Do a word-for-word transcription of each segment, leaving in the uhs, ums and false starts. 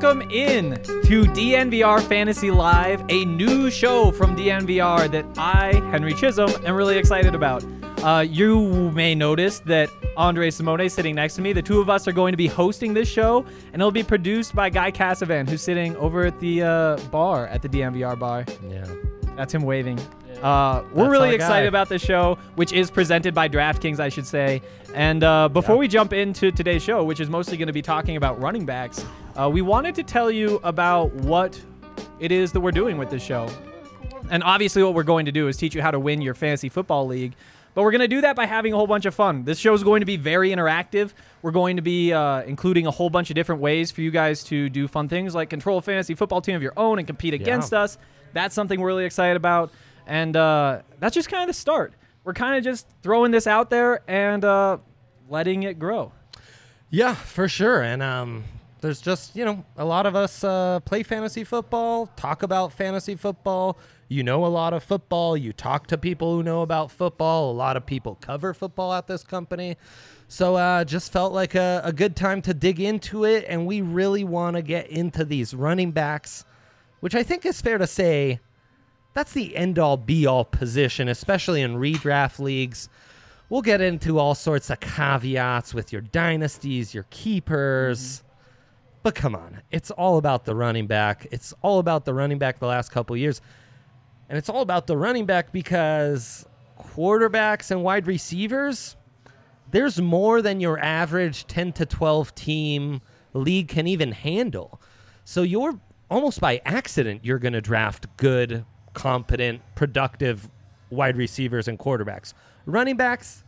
Welcome in to D N V R Fantasy Live, a new show from D N V R that I, Henry Chisholm, am really excited about. Uh, you may notice that Andre Simone is sitting next to me. The two of us are going to be hosting this show, and it'll be produced by Guy Cassavan, who's sitting over at the uh, bar, at the D N V R bar. Yeah. That's him waving. Uh, we're That's really our excited guy. about this show, which is presented by DraftKings, I should say. And uh, before Yeah. we jump into today's show, which is mostly going to be talking about running backs, uh, we wanted to tell you about what it is that we're doing with this show. And obviously what we're going to do is teach you how to win your fantasy football league. But we're going to do that by having a whole bunch of fun. This show is going to be very interactive. We're going to be uh, including a whole bunch of different ways for you guys to do fun things like control a fantasy football team of your own and compete against us. That's something we're really excited about. And uh, that's just kind of the start. We're kind of just throwing this out there and uh, letting it grow. Yeah, for sure. And um, there's just, you know, a lot of us uh, play fantasy football, talk about fantasy football. You know a lot of football. You talk to people who know about football. A lot of people cover football at this company. So uh, just felt like a, a good time to dig into it. And we really want to get into these running backs, which I think is fair to say that's the end-all, be-all position, especially in redraft leagues. We'll get into all sorts of caveats with your dynasties, your keepers. Mm-hmm. But come on, it's all about the running back. It's all about the running back the last couple of years. And it's all about the running back because quarterbacks and wide receivers, there's more than your average ten to twelve team league can even handle. So you're almost by accident, you're going to draft good, competent, productive wide receivers and quarterbacks. Running backs,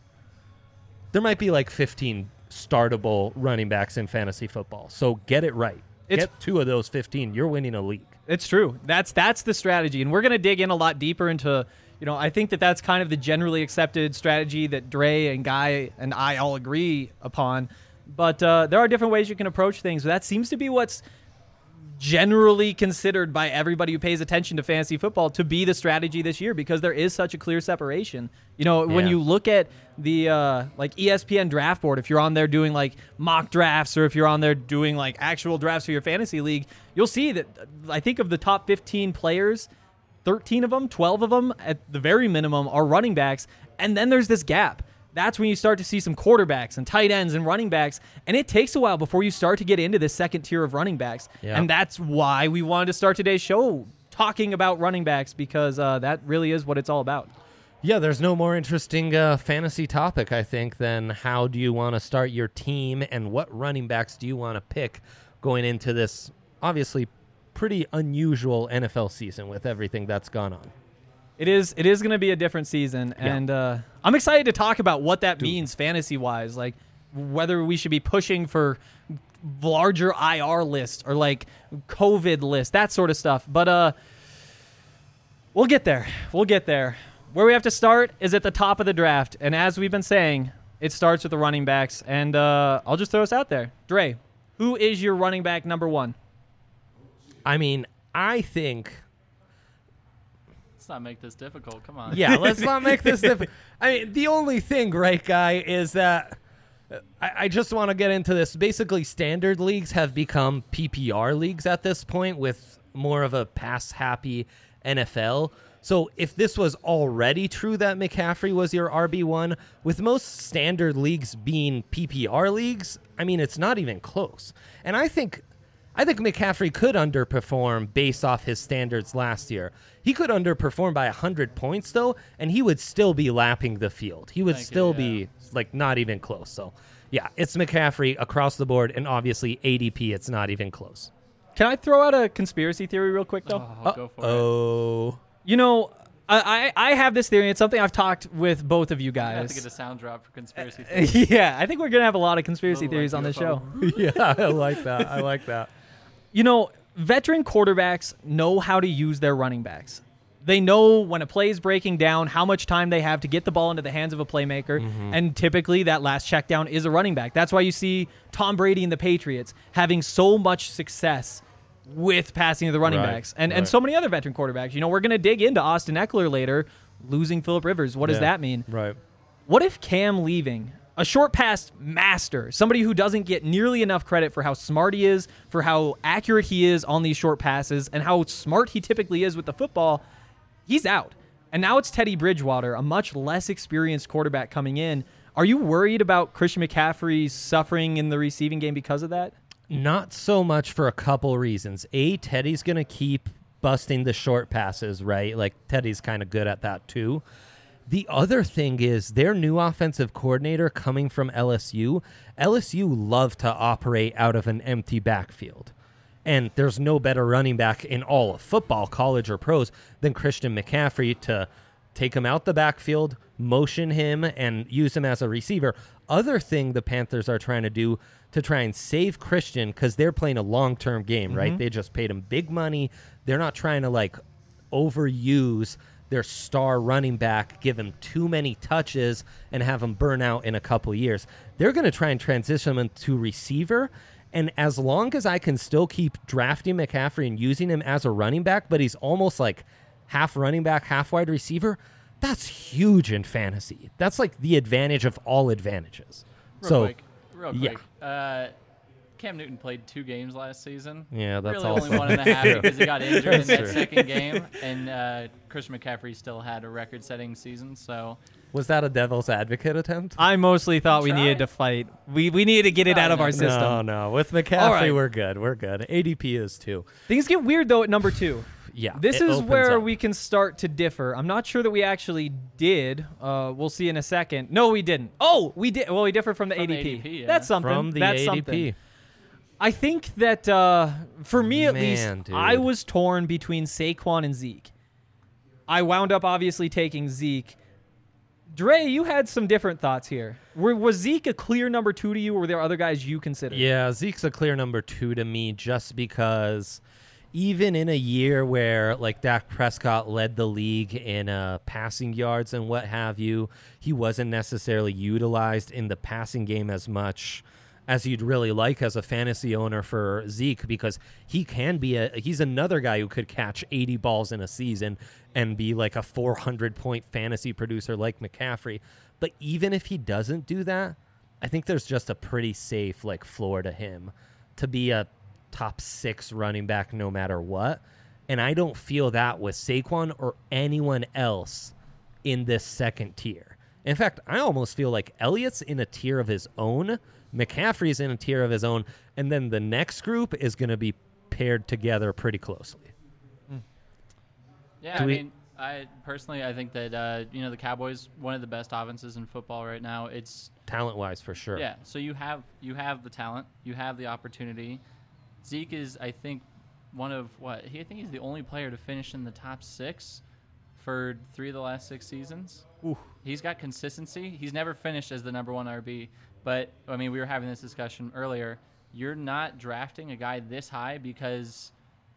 there might be like fifteen startable running backs in fantasy football. So get it right. It's, get two of those fifteen. You're winning a league. It's true. That's that's the strategy. And we're going to dig in a lot deeper into, you know, I think that that's kind of the generally accepted strategy that Dre and Guy and I all agree upon. But uh, there are different ways you can approach things. That seems to be what's generally considered by everybody who pays attention to fantasy football to be the strategy this year because there is such a clear separation. You know, when Yeah. you look at the uh, like E S P N draft board, if you're on there doing like mock drafts or if you're on there doing like actual drafts for your fantasy league, you'll see that uh, I think of the top fifteen players, thirteen of them, twelve of them at the very minimum are running backs. And then there's this gap. That's when you start to see some quarterbacks and tight ends and running backs. And it takes a while before you start to get into this second tier of running backs. Yeah. And that's why we wanted to start today's show talking about running backs because uh, that really is what it's all about. Yeah, there's no more interesting uh, fantasy topic, I think, than how do you want to start your team and what running backs do you want to pick going into this obviously pretty unusual N F L season with everything that's gone on. It is It is going to be a different season, Yeah. and uh, I'm excited to talk about what that means fantasy-wise, like whether we should be pushing for larger I R lists or like COVID lists, that sort of stuff. But uh, we'll get there. We'll get there. Where we have to start is at the top of the draft, and as we've been saying, it starts with the running backs, and uh, I'll just throw us out there. Dre, who is your running back number one? I mean, I think... Let's not make this difficult. Come on. Yeah, let's not make this difficult. I mean, the only thing, right, Guy, is that I, I just want to get into this. Basically, standard leagues have become P P R leagues at this point with more of a pass-happy N F L. So if this was already true that McCaffrey was your R B one, with most standard leagues being P P R leagues, I mean, it's not even close. And I think... I think McCaffrey could underperform based off his standards last year. He could underperform by one hundred points, though, and he would still be lapping the field. He would Thank you, still yeah. be, like, not even close. So, yeah, it's McCaffrey across the board, and obviously A D P, it's not even close. Can I throw out a conspiracy theory real quick, though? Oh, go for it. Oh. You know, I, I I have this theory. It's something I've talked with both of you I have to guys. get a sound drop for conspiracy theory. Yeah, I think we're going to have a lot of conspiracy Little, theories like, on this U F O. show. Yeah, I like that. I like that. You know, veteran quarterbacks know how to use their running backs. They know when a play is breaking down, how much time they have to get the ball into the hands of a playmaker, Mm-hmm. and typically that last check down is a running back. That's why you see Tom Brady and the Patriots having so much success with passing to the running Right, backs, and right. and so many other veteran quarterbacks. You know, we're going to dig into Austin Eckler later, losing Phillip Rivers. What does Yeah, that mean? Right. What if Cam leaving a short pass master, somebody who doesn't get nearly enough credit for how smart he is, for how accurate he is on these short passes, and how smart he typically is with the football, he's out. And now it's Teddy Bridgewater, a much less experienced quarterback coming in. Are you worried about Christian McCaffrey suffering in the receiving game because of that? Not so much, for a couple reasons. A, Teddy's going to keep busting the short passes, right? Like, Teddy's kind of good at that too. The other thing is their new offensive coordinator coming from L S U. L S U love to operate out of an empty backfield. And there's no better running back in all of football, college or pros, than Christian McCaffrey to take him out the backfield, motion him, and use him as a receiver. Other thing the Panthers are trying to do to try and save Christian, because they're playing a long-term game, mm-hmm. right? They just paid him big money. They're not trying to, like, overuse their star running back, give him too many touches, and have him burn out in a couple years. They're going to try and transition him to receiver. And as long as I can still keep drafting McCaffrey and using him as a running back, but he's almost like half running back, half wide receiver, that's huge in fantasy. That's like the advantage of all advantages. Real so, quick, real quick. Yeah. Uh, Cam Newton played two games last season. Yeah, that's really also only one and a half because he got injured in that true. second game, and uh, Christian McCaffrey still had a record-setting season. So, was that a devil's advocate attempt? I mostly thought we Try. needed to fight. We we needed to get it No, out of no, our no. system. No, no. With McCaffrey, right. we're good. We're good. A D P is too. Things get weird though at number two. Yeah, This it is opens where up. we can start to differ. I'm not sure that we actually did. Uh, we'll see in a second. No, we didn't. Oh, we did. Well, we differed from the From A D P. the A D P, yeah. That's something. From the That's A D P. something. I think that uh, for me at Man, least, dude. I was torn between Saquon and Zeke. I wound up obviously taking Zeke. Dre, you had some different thoughts here. Were, was Zeke a clear number two to you, or were there other guys you considered? Yeah, Zeke's a clear number two to me just because even in a year where, like, Dak Prescott led the league in uh, passing yards and what have you, he wasn't necessarily utilized in the passing game as much as you'd really like as a fantasy owner for Zeke, because he can be a he's another guy who could catch eighty balls in a season and be like a four hundred point fantasy producer like McCaffrey. But even if he doesn't do that, I think there's just a pretty safe like floor to him to be a top six running back no matter what. And I don't feel that with Saquon or anyone else in this second tier. In fact, I almost feel like Elliott's in a tier of his own, McCaffrey's in a tier of his own, and then the next group is going to be paired together pretty closely. yeah, Do I we- mean, I personally, I think that uh, you know the Cowboys, one of the best offenses in football right now. It's Talent-wise, for sure. yeah. So you have you have the talent, you have the opportunity. Zeke is, I think, one of what he. I think he's the only player to finish in the top six for three of the last six seasons. Ooh. He's got consistency. He's never finished as the number one R B. But, I mean, we were having this discussion earlier. You're not drafting a guy this high because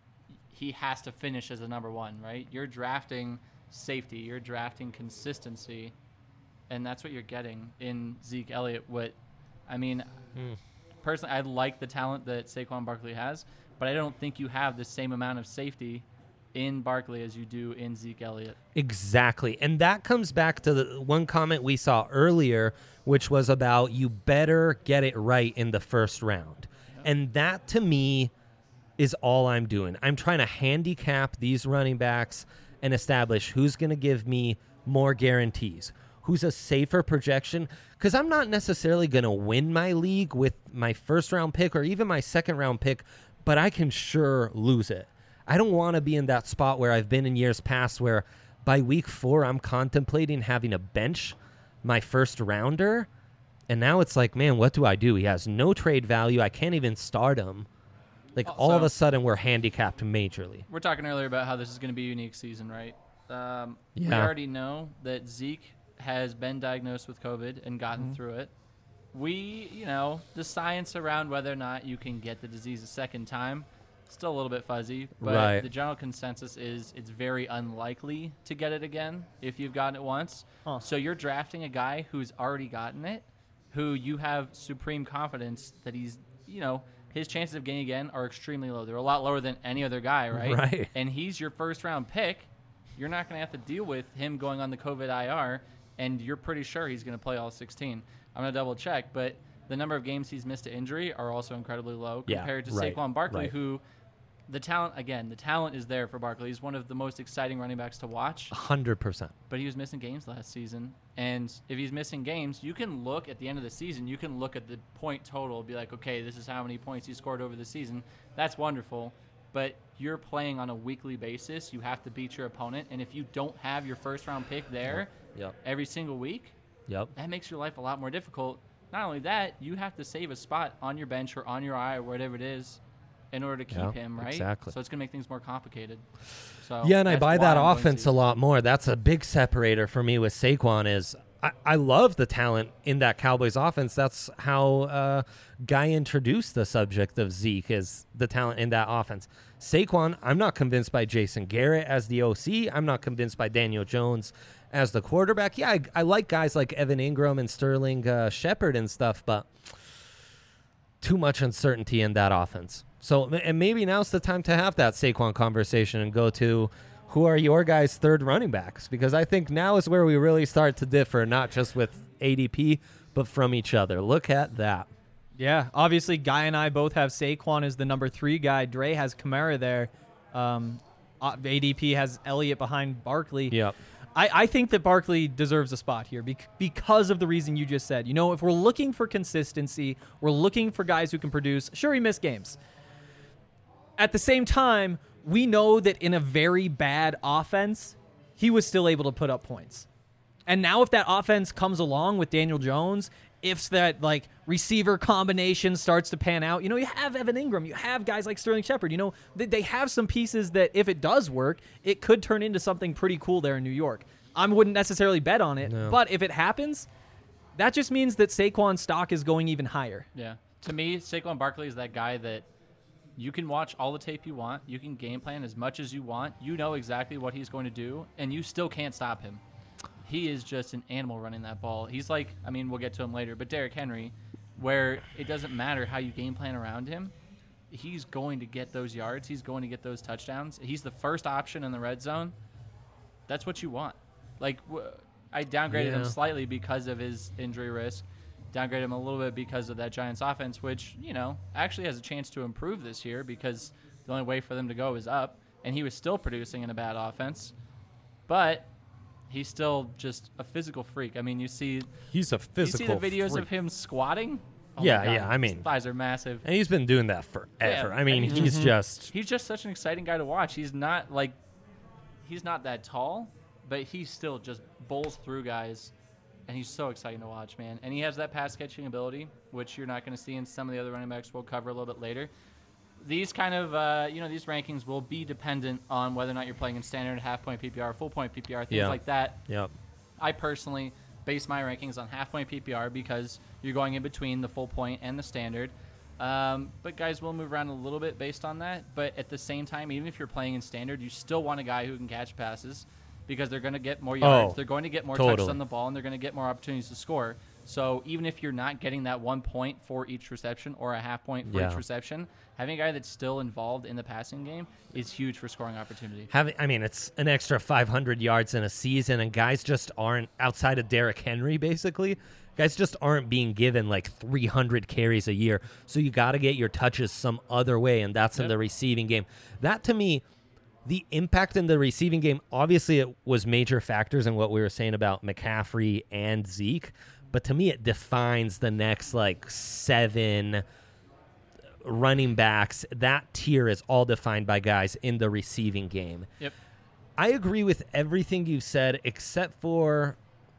he has to finish as the number one, right? You're drafting safety. You're drafting consistency. And that's what you're getting in Zeke Elliott. What, I mean, Mm. personally, I like the talent that Saquon Barkley has, but I don't think you have the same amount of safety in Barkley as you do in Zeke Elliott. Exactly. And that comes back to the one comment we saw earlier, which was about you better get it right in the first round. Yep. And that, to me, is all I'm doing. I'm trying to handicap these running backs and establish who's going to give me more guarantees, who's a safer projection, because I'm not necessarily going to win my league with my first-round pick or even my second-round pick, but I can sure lose it. I don't want to be in that spot where I've been in years past where by week four I'm contemplating having to bench my first rounder. And now it's like, man, what do I do? He has no trade value. I can't even start him. Like Oh, all of so- a sudden we're handicapped majorly. We're talking earlier about how this is going to be a unique season, right? Um, We Yeah. already know that Zeke has been diagnosed with COVID and gotten Mm-hmm. through it. We, you know, the science around whether or not you can get the disease a second time, still a little bit fuzzy. But Right. the general consensus is it's very unlikely to get it again if you've gotten it once. Huh. So you're drafting a guy who's already gotten it, who you have supreme confidence that he's, you know, his chances of getting again are extremely low. They're a lot lower than any other guy, right? Right. And he's your first round pick. You're not going to have to deal with him going on the COVID I R, and you're pretty sure he's going to play all sixteen. I'm gonna double check, but the number of games he's missed to injury are also incredibly low Yeah, compared to right, Saquon Barkley, right. who the talent again, the talent is there for Barkley. He's one of the most exciting running backs to watch. one hundred percent. But he was missing games last season. And if he's missing games, you can look at the end of the season, you can look at the point total, be like, okay, this is how many points he scored over the season. That's wonderful. But you're playing on a weekly basis. You have to beat your opponent. And if you don't have your first round pick there Yep. every single week, Yep. that makes your life a lot more difficult. Not only that, you have to save a spot on your bench or on your I or whatever it is in order to keep Yeah, him, right? exactly. So it's going to make things more complicated. So Yeah, and I that's buy why that I'm going offense to. a lot more. That's a big separator for me with Saquon is I, I love the talent in that Cowboys offense. That's how uh, Guy introduced the subject of Zeke is the talent in that offense. Saquon, I'm not convinced by Jason Garrett as the O C. I'm not convinced by Daniel Jones as the quarterback. Yeah, I, I like guys like Evan Ingram and Sterling uh, Shepard and stuff, but too much uncertainty in that offense. So, and maybe now's the time to have that Saquon conversation and go to who are your guys' third running backs? Because I think now is where we really start to differ, not just with A D P, but from each other. Look at that. Yeah, obviously, Guy and I both have Saquon as the number three guy. Dre has Kamara there. Um, A D P has Elliott behind Barkley. Yep. I, I think that Barkley deserves a spot here bec- because of the reason you just said. You know, if we're looking for consistency, we're looking for guys who can produce. Sure, he missed games. At the same time, we know that in a very bad offense, he was still able to put up points. And now if that offense comes along with Daniel Jones, if that like receiver combination starts to pan out, you know, you have Evan Ingram, you have guys like Sterling Shepard, you know, they, they have some pieces that if it does work, it could turn into something pretty cool there in New York. I wouldn't necessarily bet on it, No. but if it happens, that just means that Saquon's stock is going even higher. Yeah. To me, Saquon Barkley is that guy that you can watch all the tape you want. You can game plan as much as you want. You know exactly what he's going to do, and you still can't stop him. He is just an animal running that ball. He's like, I mean, we'll get to him later, but Derrick Henry, where it doesn't matter how you game plan around him, he's going to get those yards. He's going to get those touchdowns. He's the first option in the red zone. That's what you want. Like, w- I downgraded him Yeah. slightly because of his injury risk. Downgrade him a little bit because of that Giants offense, which, you know, actually has a chance to improve this year because the only way for them to go is up, and he was still producing in a bad offense. But he's still just a physical freak. I mean, you see He's a you physical see the videos freak. of him squatting? Oh my Yeah, God, yeah, I mean- his thighs are massive. And he's been doing that forever. Yeah, I mean, and he's- he's just He's just such an exciting guy to watch. He's not like he's not that tall, but he still just bowls through guys, and he's so exciting to watch, man. And he has that pass catching ability, which you're not going to see in some of the other running backs we'll cover a little bit later. These kind of, uh, you know, these rankings will be dependent on whether or not you're playing in standard, half point P P R, full point P P R, things Yeah. like that. Yep. I personally base my rankings on half point P P R because you're going in between the full point and the standard. Um, but guys will move around a little bit based on that. But at the same time, even if you're playing in standard, you still want a guy who can catch passes because they're going to get more yards. Oh, they're going to get more touches totally. on the ball, and they're going to get more opportunities to score. So even if you're not getting that one point for each reception or a half point for Yeah. each reception, having a guy that's still involved in the passing game is huge for scoring opportunity. Having, I mean, it's an extra five hundred yards in a season, and guys just aren't, outside of Derrick Henry, basically, guys just aren't being given like three hundred carries a year. So you got to get your touches some other way, and that's in Yep. the receiving game. That, to me, the impact in the receiving game, obviously it was major factors in what we were saying about McCaffrey and Zeke, but to me it defines the next like seven running backs. That tier is all defined by guys in the receiving game. Yep. I agree with everything you said except for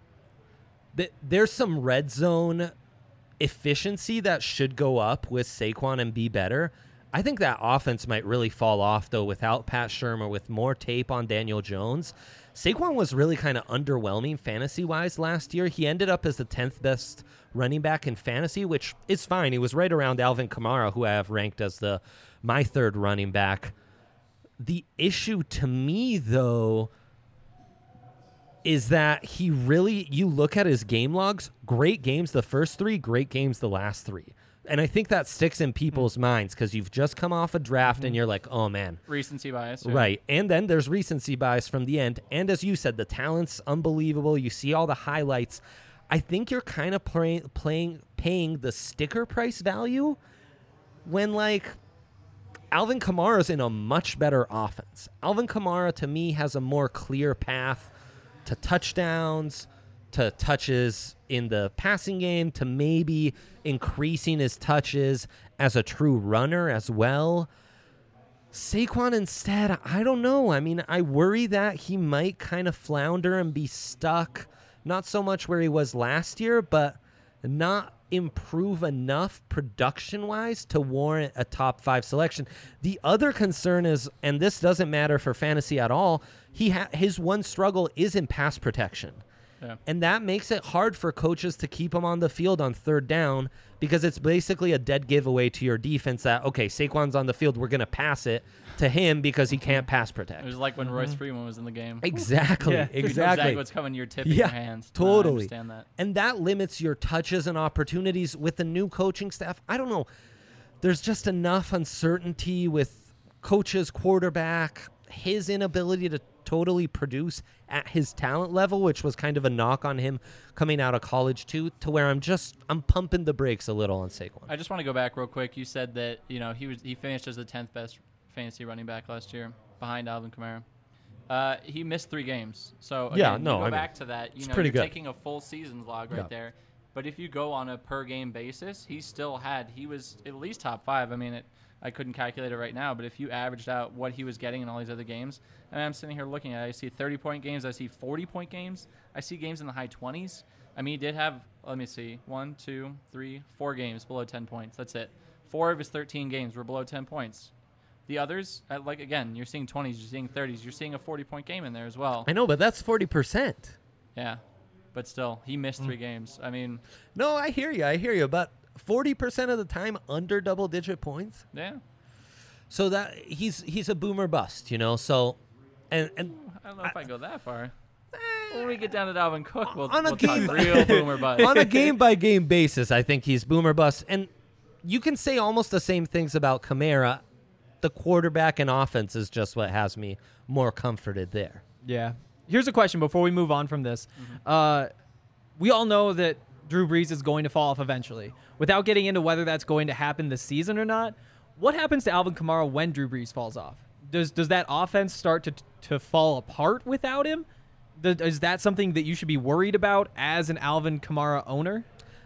that there's some red zone efficiency that should go up with Saquon and be better. I think that offense might really fall off, though, without Pat Shurmur, with more tape on Daniel Jones. Saquon was really kind of underwhelming fantasy-wise last year. He ended up as the tenth best running back in fantasy, which is fine. He was right around Alvin Kamara, who I have ranked as the my third running back. The issue to me, though, is that he really, you look at his game logs, great games the first three, great games the last three. And I think that sticks in people's mm. minds because you've just come off a draft mm-hmm. and you're like, oh, man. Recency bias. Yeah. Right. And then there's recency bias from the end. And as you said, the talent's unbelievable. You see all the highlights. I think you're kind of play, playing paying the sticker price value when, like, Alvin Kamara's in a much better offense. Alvin Kamara, to me, has a more clear path to touchdowns, to touches in the passing game, to maybe increasing his touches as a true runner as well. Saquon instead, I don't know. I mean, I worry that he might kind of flounder and be stuck, not so much where he was last year, but not improve enough production-wise to warrant a top five selection. The other concern is, and this doesn't matter for fantasy at all, he ha- his one struggle is in pass protection. Yeah. And that makes it hard for coaches to keep him on the field on third down because it's basically a dead giveaway to your defense that, okay, Saquon's on the field, we're going to pass it to him because he can't pass protect. It was like when Royce Freeman was in the game. Exactly, Yeah. You know exactly. exactly what's coming to your tip in Yeah, your hands. totally. No, I understand that. And that limits your touches and opportunities with the new coaching staff. I don't know. There's just enough uncertainty with coaches, quarterback, his inability to totally produce at his talent level, which was kind of a knock on him coming out of college too, to where I'm just I'm pumping the brakes a little on Saquon. I just want to go back real quick. You said that you know he was he finished as the tenth best fantasy running back last year behind Alvin Kamara. Uh, he missed three games. So again, Yeah, you no, go I mean, back to that. You it's know, pretty you're good. taking a full season's log right Yeah. there. But if you go on a per game basis, he still had he was at least top five. I mean, it, I couldn't calculate it right now, but if you averaged out what he was getting in all these other games, and I'm sitting here looking at it, I see thirty point games, I see forty point games, I see games in the high twenties. I mean, he did have, let me see, one, two, three, four games below ten points. That's it. Four of his thirteen games were below ten points. The others, uh, like, again, you're seeing twenties, you're seeing thirties, you're seeing a forty point game in there as well. I know, but that's forty percent. Yeah, but still, he missed three games. I mean, No, I hear you. I hear you. But forty percent of the time under double-digit points. yeah. So that he's he's a boomer bust, you know. So, and and I don't know if I go that far. When we get down to Dalvin Cook, we'll, On a we'll game- talk real boomer bust. on a game by game basis, I think he's boomer bust. And you can say almost the same things about Kamara. The quarterback and offense is just what has me more comforted there. Yeah. Here's a question before we move on from this. Uh, we all know that Drew Brees is going to fall off eventually. Without getting into whether that's going to happen this season or not, what happens to Alvin Kamara when Drew Brees falls off? Does does that offense start to to fall apart without him? Th- Is that something that you should be worried about as an Alvin Kamara owner?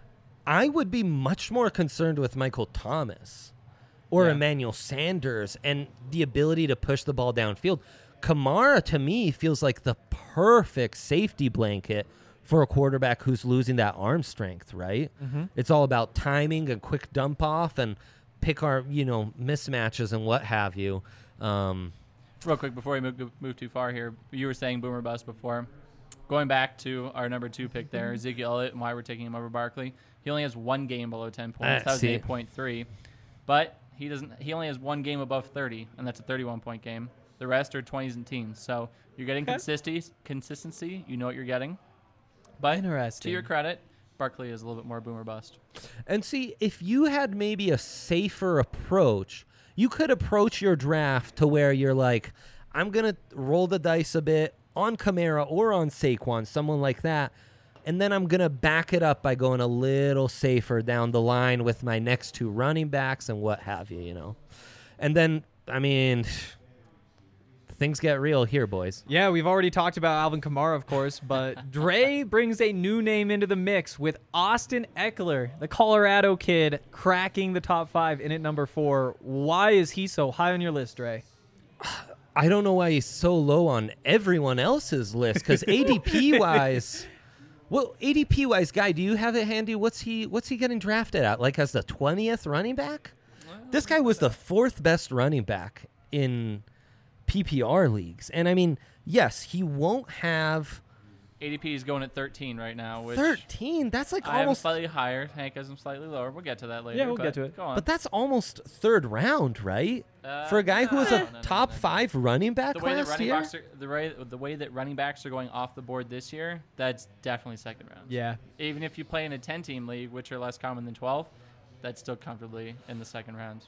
I would be much more concerned with Michael Thomas or Yeah. Emmanuel Sanders and the ability to push the ball downfield. Kamara, to me, feels like the perfect safety blanket for a quarterback who's losing that arm strength, right? Mm-hmm. It's all about timing and quick dump off and pick our, you know, mismatches and what have you. Um, Real quick, before we move, move too far here, you were saying boomer bust before. Going back to our number two pick there, Ezekiel Elliott, and why we're taking him over Barkley. He only has one game below ten points. Uh, that was see. eight point three. But he doesn't. He only has one game above thirty, and that's a thirty-one point game. The rest are twenties and teens. So you're getting Okay. consistency. Consistency. You know what you're getting. But Interesting. to your credit, Barkley is a little bit more boomer bust. And see, if you had maybe a safer approach, you could approach your draft to where you're like, I'm going to roll the dice a bit on Kamara or on Saquon, someone like that. And then I'm going to back it up by going a little safer down the line with my next two running backs and what have you, you know. And then, I mean, things get real here, boys. Yeah, we've already talked about Alvin Kamara, of course, but Dre brings a new name into the mix with Austin Eckler, the Colorado kid, cracking the top five in at number four. Why is he so high on your list, Dre? I don't know why he's so low on everyone else's list because A D P wise, well, A D P wise, guy, do you have it handy? What's he What's he getting drafted at? Like as the twentieth running back? This guy was the fourth best running back in P P R leagues, and I mean, yes, he won't have A D P is going at thirteen right now, which thirteen. That's like I have him almost, slightly higher. Hank has him slightly lower. We'll get to that later. Yeah, we'll but get to it. Go on. but that's almost third round, right? Uh, For a guy who was no, a no, no, top no, no. five running back the way that last running year. backs are the way the way that running backs are going off the board this year, that's definitely second round. Yeah. Even if you play in a ten team league, which are less common than twelve, that's still comfortably in the second round.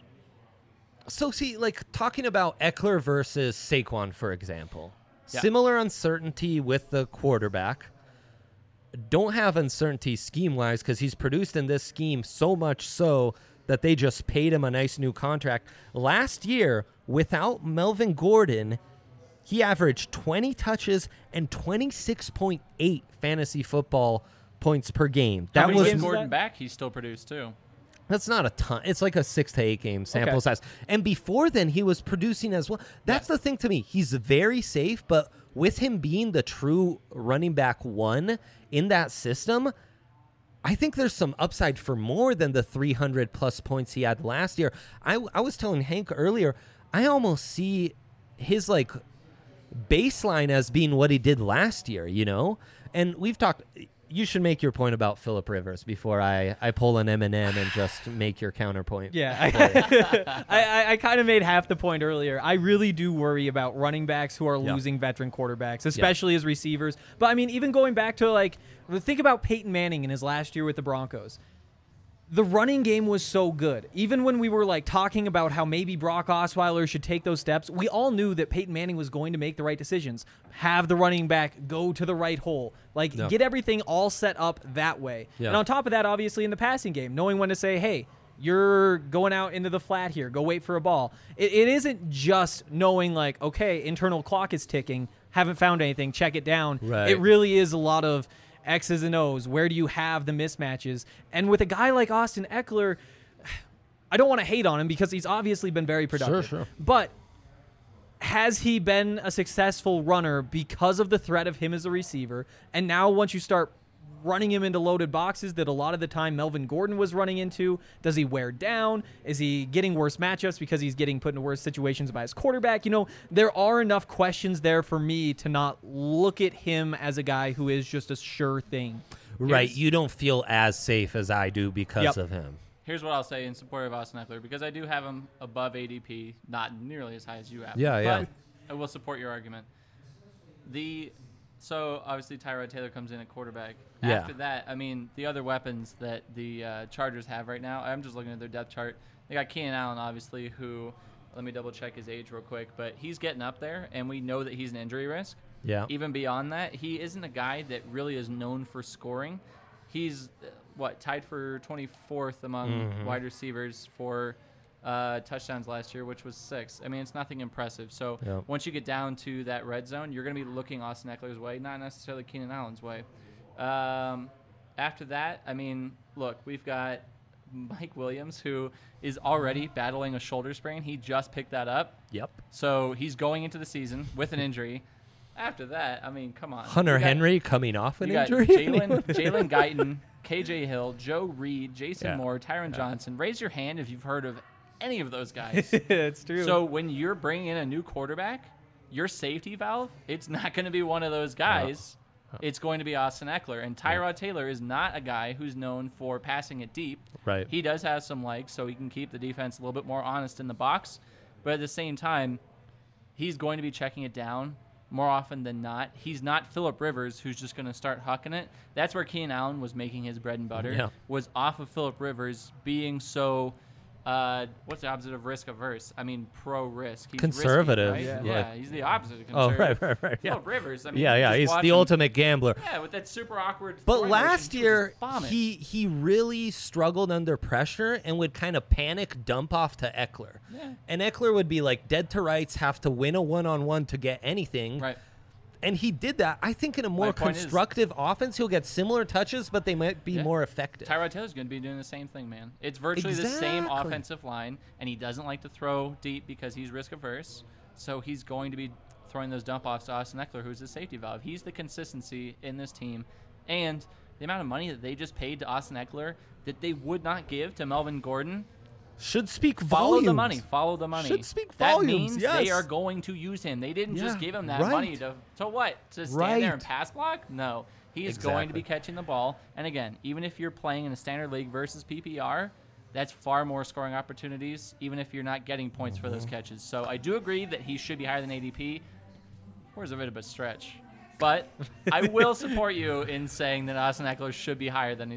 So see, like talking about Eckler versus Saquon, for example, Yeah. similar uncertainty with the quarterback. don't have uncertainty scheme-wise because he's produced in this scheme so much so that they just paid him a nice new contract. Last year, without Melvin Gordon, he averaged twenty touches and twenty-six point eight fantasy football points per game. How That many was games Gordon back, he still produced too. That's not a ton. It's like a six to eight game sample Okay. size. And before then, he was producing as well. That's Yes. the thing to me. He's very safe, but with him being the true running back one in that system, I think there's some upside for more than the three hundred plus points he had last year. I, I was telling Hank earlier, I almost see his like baseline as being what he did last year, you know? And we've talked... You should make your point about Phillip Rivers before I, I pull an M and M and just make your counterpoint. Yeah, I, I, I kind of made half the point earlier. I really do worry about running backs who are Yeah. losing veteran quarterbacks, especially as receivers. But I mean, even going back to like, think about Peyton Manning in his last year with the Broncos. The running game was so good. Even when we were like talking about how maybe Brock Osweiler should take those steps, we all knew that Peyton Manning was going to make the right decisions. Have the running back go to the right hole. Like, Yeah. get everything all set up that way. Yeah. And on top of that, obviously, in the passing game, knowing when to say, hey, you're going out into the flat here. Go wait for a ball. It, it isn't just knowing, like, okay, internal clock is ticking. Haven't found anything. Check it down. Right. It really is a lot of X's and O's. Where do you have the mismatches? And with a guy like Austin Eckler, I don't want to hate on him because he's obviously been very productive. Sure, sure. But has he been a successful runner because of the threat of him as a receiver? And now once you start running him into loaded boxes that a lot of the time Melvin Gordon was running into, does he wear down? Is he getting worse matchups because he's getting put into worse situations by his quarterback? You know, there are enough questions there for me to not look at him as a guy who is just a sure thing. Right. Here's- You don't feel as safe as I do because Yep. of him. Here's what I'll say in support of Austin Eckler, because I do have him above A D P, not nearly as high as you have. Yeah, yeah. But I will support your argument. The so obviously Tyrod Taylor comes in at quarterback. Yeah. After that, I mean the other weapons that the uh, Chargers have right now. I'm just looking at their depth chart. They got Keenan Allen, obviously, who let me double check his age real quick, but he's getting up there, and we know that he's an injury risk. Yeah. Even beyond that, he isn't a guy that really is known for scoring. He's uh, what tied for twenty-fourth among Mhm. wide receivers for uh, touchdowns last year, which was six. I mean, it's nothing impressive. So Yep. once you get down to that red zone, you're going to be looking Austin Eckler's way, not necessarily Keenan Allen's way. Um, after that, I mean, look, we've got Mike Williams, who is already battling a shoulder sprain. He just picked that up. Yep. So he's going into the season with an injury. After that, I mean, come on. Hunter You got- Henry coming off an you got injury. Jalen Jalen Guyton, K J Hill, Joe Reed, Jason Yeah. Moore, Tyron Johnson. Raise your hand if you've heard of any of those guys. It's true. So when you're bringing in a new quarterback, your safety valve, it's not going to be one of those guys. It's going to be Austin Eckler. And Tyrod Taylor is not a guy who's known for passing it deep. Right. He does have some legs, so he can keep the defense a little bit more honest in the box. But at the same time, he's going to be checking it down more often than not. He's not Phillip Rivers, who's just going to start hucking it. That's where Keenan Allen was making his bread and butter, Yeah. was off of Phillip Rivers being so, uh, what's the opposite of risk averse? I mean, pro risk. He's Conservative. Risky, right? Yeah. Yeah. he's the opposite of Oh, conservative. right, right, right. Yeah. Phillip Rivers, I mean, Yeah, yeah. just He's watch the him- ultimate gambler. Yeah, with that super awkward. But throwing last motion, he would year, just bomb it. he he really struggled under pressure and would kind of panic dump off to Eckler. Yeah. And Eckler would be like dead to rights, have to win a one-on-one to get anything. Right. And he did that. I think in a more My point is- constructive offense, he'll get similar touches, but they might be Yeah. more effective. Tyrod Taylor's going to be doing the same thing, man. It's virtually the same Exactly. offensive line, and he doesn't like to throw deep because he's risk averse. So he's going to be throwing those dump offs to Austin Eckler, who's the safety valve. He's the consistency in this team, and the amount of money that they just paid to Austin Eckler that they would not give to Melvin Gordon. Should speak Follow volumes. the money. Follow the money. Should speak that volumes, means yes. they are going to use him. They didn't just Yeah, give him that right. money to to what? To stand Right. there and pass block? No. He is going to be Exactly. catching the ball. And again, even if you're playing in a standard league versus P P R, that's far more scoring opportunities, even if you're not getting points for Mm-hmm. those catches. So I do agree that he should be higher than A D P. Where's a bit of a stretch? But I will support you in saying that Austin Eckler should be higher than he's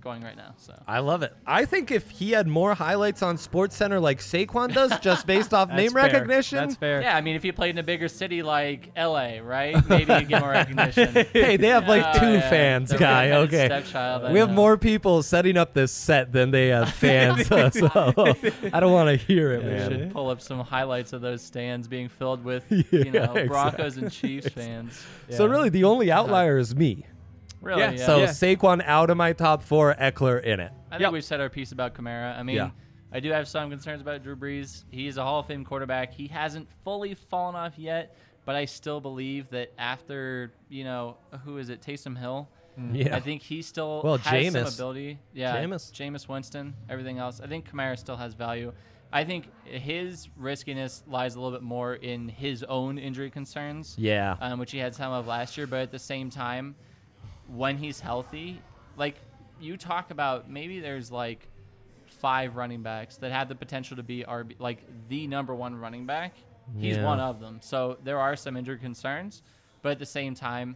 going right now. So I love it. I think if he had more highlights on SportsCenter like Saquon does, just based off That's name fair. recognition. That's fair. yeah, I mean, if he played in a bigger city like L A, right? Maybe he'd get more recognition. Hey, they have like Oh, two yeah. fans, The guy. redheaded Okay. stepchild, I We have know. more people setting up this set than they have fans. so I don't want to hear it, We man. should pull up some highlights of those stands being filled with, Yeah, you know, Broncos exactly. and Chiefs fans. So really, the only outlier is me. Really? Yeah, Yeah. So Yeah. Saquon out of my top four, Eckler in it. I think Yep. we've said our piece about Kamara. I mean, Yeah. I do have some concerns about Drew Brees. He's a Hall of Fame quarterback. He hasn't fully fallen off yet, but I still believe that after, you know, who is it, Taysom Hill? Yeah. I think he still Well, has some Jameis. ability. Yeah, Jameis. Jameis Winston, everything else. I think Kamara still has value. I think his riskiness lies a little bit more in his own injury concerns, Yeah. um, which he had some of last year. But at the same time, when he's healthy, like you talk about, maybe there's like five running backs that have the potential to be R B, like the number one running back. He's Yeah. one of them. So there are some injury concerns, but at the same time,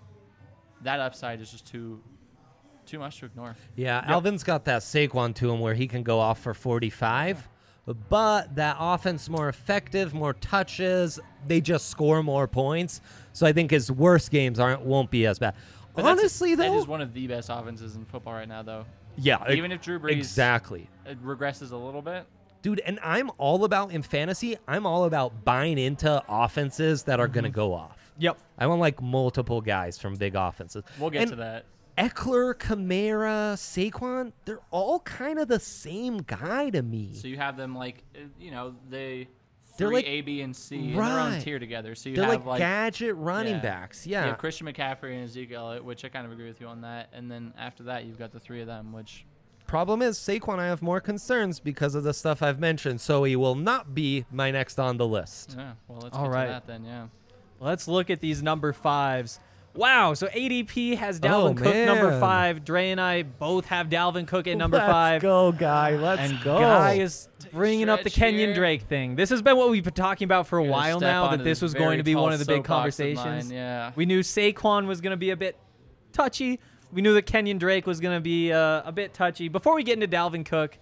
that upside is just too too much to ignore. Yeah, Alvin's got that Saquon to him where he can go off for forty-five, but that offense more effective, more touches. They just score more points. So I think his worst games aren't won't be as bad. But that's- Honestly, that though, is one of the best offenses in football right now, though. yeah, Even if Drew Brees exactly. uh, regresses a little bit, Dude, and I'm all about, in fantasy, I'm all about buying into offenses that are going to go off. Yep. I want like multiple guys from big offenses. we'll get And to that. Eckler, Kamara, Saquon, they're all kind of the same guy to me. So you have them like, uh, you know, they They're three like- A, B, and C in their own Right. tier together. So you They're have like, gadget running yeah. backs. You Yeah. have Christian McCaffrey and Ezekiel Elliott, which I kind of agree with you on that. And then after that, you've got the three of them, which Problem is, Saquon, I have more concerns because of the stuff I've mentioned, so he will not be my next on the list. yeah. Well, let's All get right. to that then. Yeah. Let's look at these number fives. Wow, so A D P has Dalvin Oh, Cook number man. five. Dre and I both have Dalvin Cook at number Let's five. go, guy. Let's and go. Guy is bringing up the stretch Kenyon here. Drake thing. This has been what we've been talking about for a Gonna while step now, that onto this was very going to be tall one of the big soapbox of mine, conversations. Yeah. We knew Saquon was going to be a bit touchy. We knew that Kenyon Drake was going to be uh, a bit touchy. Before we get into Dalvin Cook,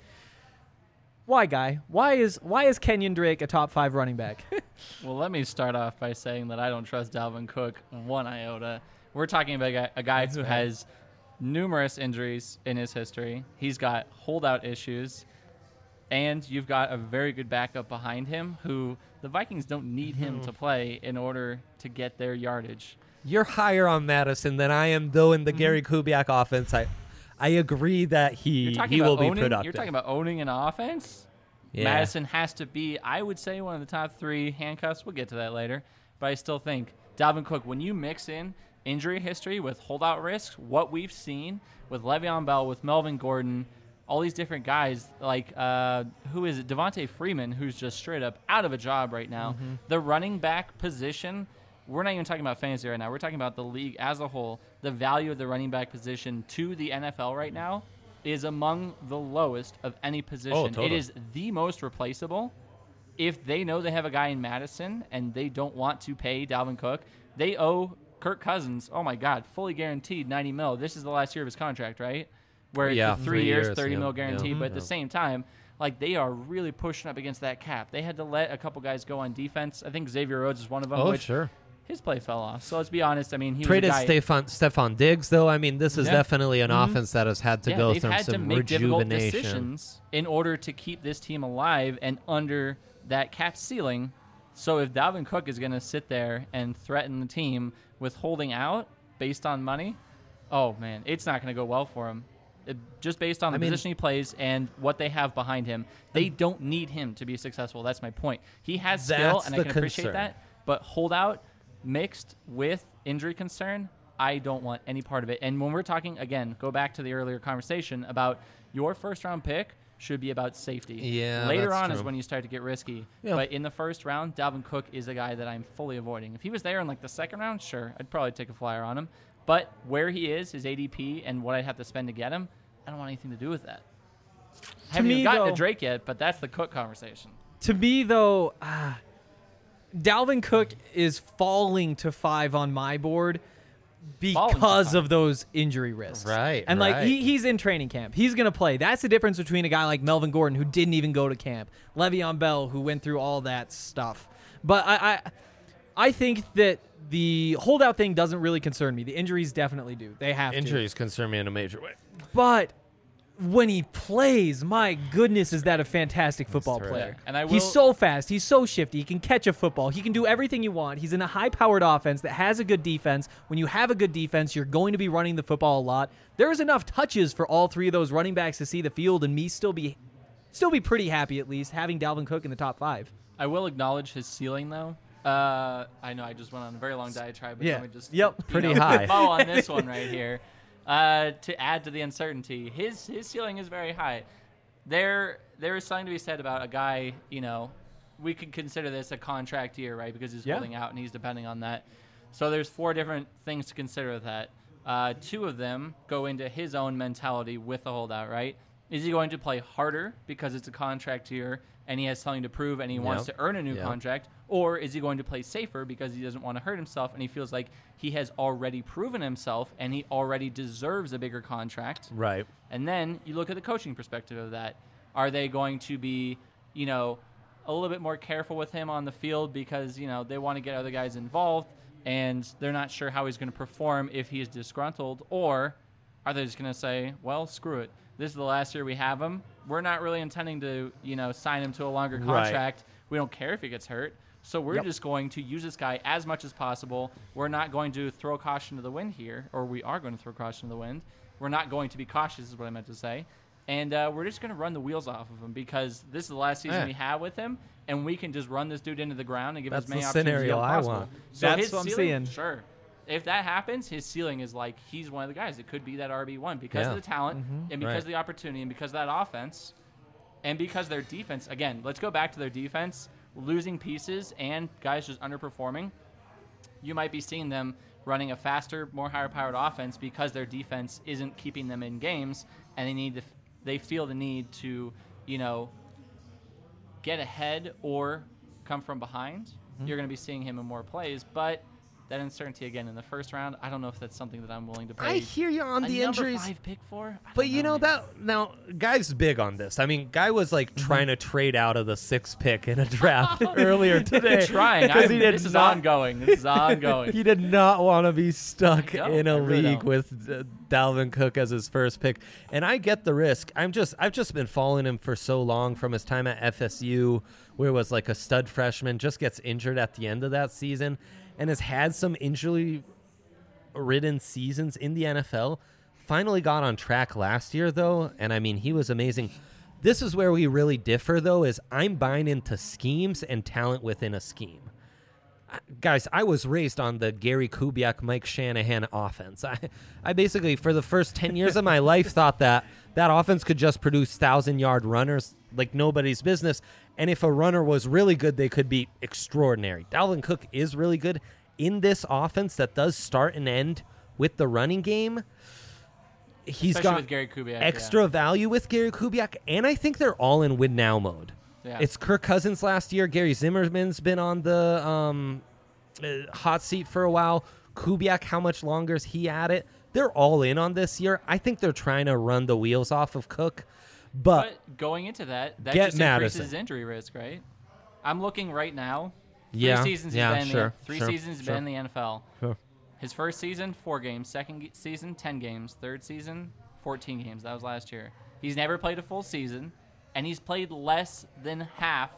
why, Guy? Why is why is Kenyon Drake a top five running back? Well, let me start off by saying that I don't trust Dalvin Cook one iota. We're talking about a guy, a guy who has numerous injuries in his history. He's got holdout issues, and you've got a very good backup behind him who the Vikings don't need him to play in order to get their yardage. You're higher on Madison than I am, though, in the Gary Kubiak offense. I, I agree that he You're talking he about will be owning, productive. You're talking about owning an offense. Yeah. Madison has to be, I would say, one of the top three handcuffs. We'll get to that later. But I still think Dalvin Cook, when you mix in injury history with holdout risks, what we've seen with Le'Veon Bell, with Melvin Gordon, all these different guys, like, uh, who is it? Devontae Freeman, who's just straight up out of a job right now. Mm-hmm. The running back position, we're not even talking about fantasy right now. We're talking about the league as a whole. The value of the running back position to the N F L right now is among the lowest of any position. Oh, totally. It is the most replaceable. If they know they have a guy in Madison and they don't want to pay Dalvin Cook, they owe Kirk Cousins, oh my God, fully guaranteed ninety mil. This is the last year of his contract, right? Where Yeah, it's three, three years, years, thirty yeah, mil guaranteed. yeah. But at the Yeah. same time, like, they are really pushing up against that cap. They had to let a couple guys go on defense. I think Xavier Rhodes is one of them. Oh, which sure. His play fell off. So let's be honest. I mean, he Traded was a guy, Stephon, Stephon Diggs, though. I mean, this is Yeah. definitely an Mhm. offense that has had to yeah, go they've through had to some make difficult rejuvenation. decisions in order to keep this team alive and under that cap ceiling. So if Dalvin Cook is going to sit there and threaten the team with holding out based on money, oh man, it's not going to go well for him. It, just based on the I mean- position he plays and what they have behind him, they don't need him to be successful. That's my point. He has skill, That's and I the can appreciate concern. that. But holdout mixed with injury concern, I don't want any part of it. And when we're talking, again, go back to the earlier conversation about your first round pick should be about safety. Yeah, Later that's on is true. when you start to get risky. Yeah. But in the first round, Dalvin Cook is a guy that I'm fully avoiding. If he was there in like the second round, sure, I'd probably take a flyer on him. But where he is, his A D P, and what I'd have to spend to get him, I don't want anything to do with that. I haven't me, even gotten though- to Drake yet, but that's the Cook conversation. To me, though, ah, Dalvin Cook is falling to five on my board. because of those injury risks. Right, And like right. he, he's in training camp. He's going to play. That's the difference between a guy like Melvin Gordon who didn't even go to camp, Le'Veon Bell who went through all that stuff. But I I, I think that the holdout thing doesn't really concern me. The injuries definitely do. They have Injuries concern me in a major way. to. But when he plays, my goodness, is that a fantastic football terrific. player. And I He's will- so fast. He's so shifty. He can catch a football. He can do everything you want. He's in a high-powered offense that has a good defense. When you have a good defense, you're going to be running the football a lot. There's enough touches for all three of those running backs to see the field and me still be still be pretty happy, at least, having Dalvin Cook in the top five. I will acknowledge his ceiling, though. Uh, I know I just went on a very long diatribe, but Yeah. let me just Yep. you Pretty know, high. bow on this one right here. Uh, to add to the uncertainty, his his ceiling is very high. There there is something to be said about a guy. You know, we could consider this a contract year, right? Because he's Yeah. holding out and he's depending on that. So there's four different things to consider with that. Uh, two of them go into his own mentality with the holdout, right? Is he going to play harder because it's a contract year and he has something to prove and he wants Yep. to earn a new Yep. contract? Or is he going to play safer because he doesn't want to hurt himself and he feels like he has already proven himself and he already deserves a bigger contract? Right. And then you look at the coaching perspective of that. Are they going to be, you know, a little bit more careful with him on the field because, you know, they want to get other guys involved and they're not sure how he's going to perform if he is disgruntled? Or are they just going to say, well, screw it. This is the last year we have him. We're not really intending to, you know, sign him to a longer Right. contract. We don't care if he gets hurt. So we're Yep. just going to use this guy as much as possible. We're not going to throw caution to the wind here, or we are going to throw caution to the wind. We're not going to be cautious is what I meant to say. And uh, we're just going to run the wheels off of him because this is the last season Yeah. we have with him, and we can just run this dude into the ground and give That's as many the opportunities scenario as I possible. want. So That's his what I'm ceiling, seeing. Sure. If that happens, his ceiling is like he's one of the guys. It could be that R B one because Yeah. of the talent and because Right. of the opportunity and because of that offense and because their defense. Again, let's go back to their defense. Losing pieces and guys just underperforming, you might be seeing them running a faster, more higher-powered offense because their defense isn't keeping them in games, and they need to, they feel the need to, you know, get ahead or come from behind. Mm-hmm. You're going to be seeing him in more plays, but that uncertainty again in the first round, I don't know if that's something that I'm willing to pay. I hear you on a the number injuries. five pick for. I But don't you know man. that now, Guy's big on this. I mean, Guy was like trying to trade out of the sixth pick in a draft earlier today. trying. because I'm- he did this is not- ongoing. This is ongoing. He did not want to be stuck I don't. in a I really league don't. with uh, Dalvin Cook as his first pick, and I get the risk. I'm just, I've just been following him for so long from his time at F S U, where it was like a stud freshman, just gets injured at the end of that season, and has had some injury ridden seasons in the N F L. Finally got on track last year, though, and I mean, he was amazing. This is where we really differ, though, is I'm buying into schemes and talent within a scheme. I- Guys, I was raised on the Gary Kubiak, Mike Shanahan offense. I, I basically, for the first ten years of my life, thought that that offense could just produce thousand-yard runners like nobody's business, and if a runner was really good, they could be extraordinary. Dalvin Cook is really good in this offense that does start and end with the running game. He's Especially got with Gary Kubiak, extra value with Gary Kubiak, and I think they're all in win now mode. Yeah. It's Kirk Cousins last year. Gary Zimmerman's been on the um, uh, hot seat for a while. Kubiak, how much longer is he at it? They're all in on this year. I think they're trying to run the wheels off of Cook, but, But going into that, that Get just Madison. increases injury risk, right? I'm looking right now. Three Yeah, seasons yeah, he's been sure, in the, three sure, seasons he's sure. been in the N F L. Sure. His first season, four games. Second ge- season, ten games. Third season, fourteen games. That was last year. He's never played a full season, and he's played less than half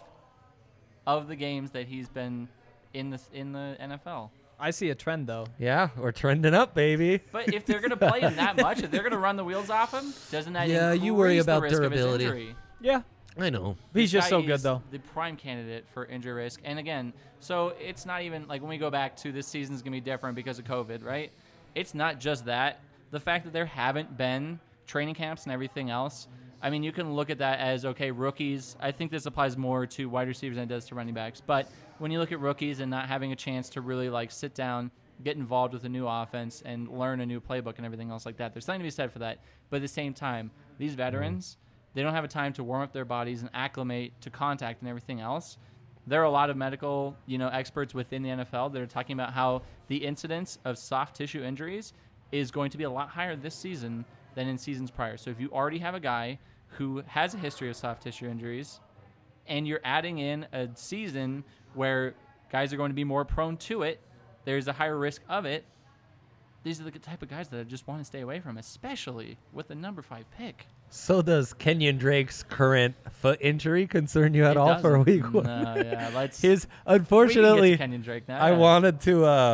of the games that he's been in the in the N F L. I see a trend, though. yeah, we're trending up, baby. But if they're going to play him that much, if they're going to run the wheels off him, doesn't that Yeah, increase you worry the about risk of his durability. injury? Yeah. I know. He's This just guy so good, is though. The prime candidate for injury risk. And again, so it's not even like when we go back to this season's going to be different because of COVID, right? It's not just that. The fact that there haven't been training camps and everything else, I mean, you can look at that as, okay, rookies. I think this applies more to wide receivers than it does to running backs. But when you look at rookies and not having a chance to really like sit down, get involved with a new offense and learn a new playbook and everything else like that, there's something to be said for that. But at the same time, these veterans, they don't have a time to warm up their bodies and acclimate to contact and everything else. There are a lot of medical, you know, experts within the N F L that are talking about how the incidence of soft tissue injuries is going to be a lot higher this season than in seasons prior. So if you already have a guy who has a history of soft tissue injuries and you're adding in a season where guys are going to be more prone to it, there's a higher risk of it. These are the type of guys that I just want to stay away from, especially with the number five pick. So does Kenyon Drake's current foot injury concern you at It all for doesn't. week one? No, yeah, let's. His we can get unfortunately, to Kenyon Drake now. I yeah. wanted to uh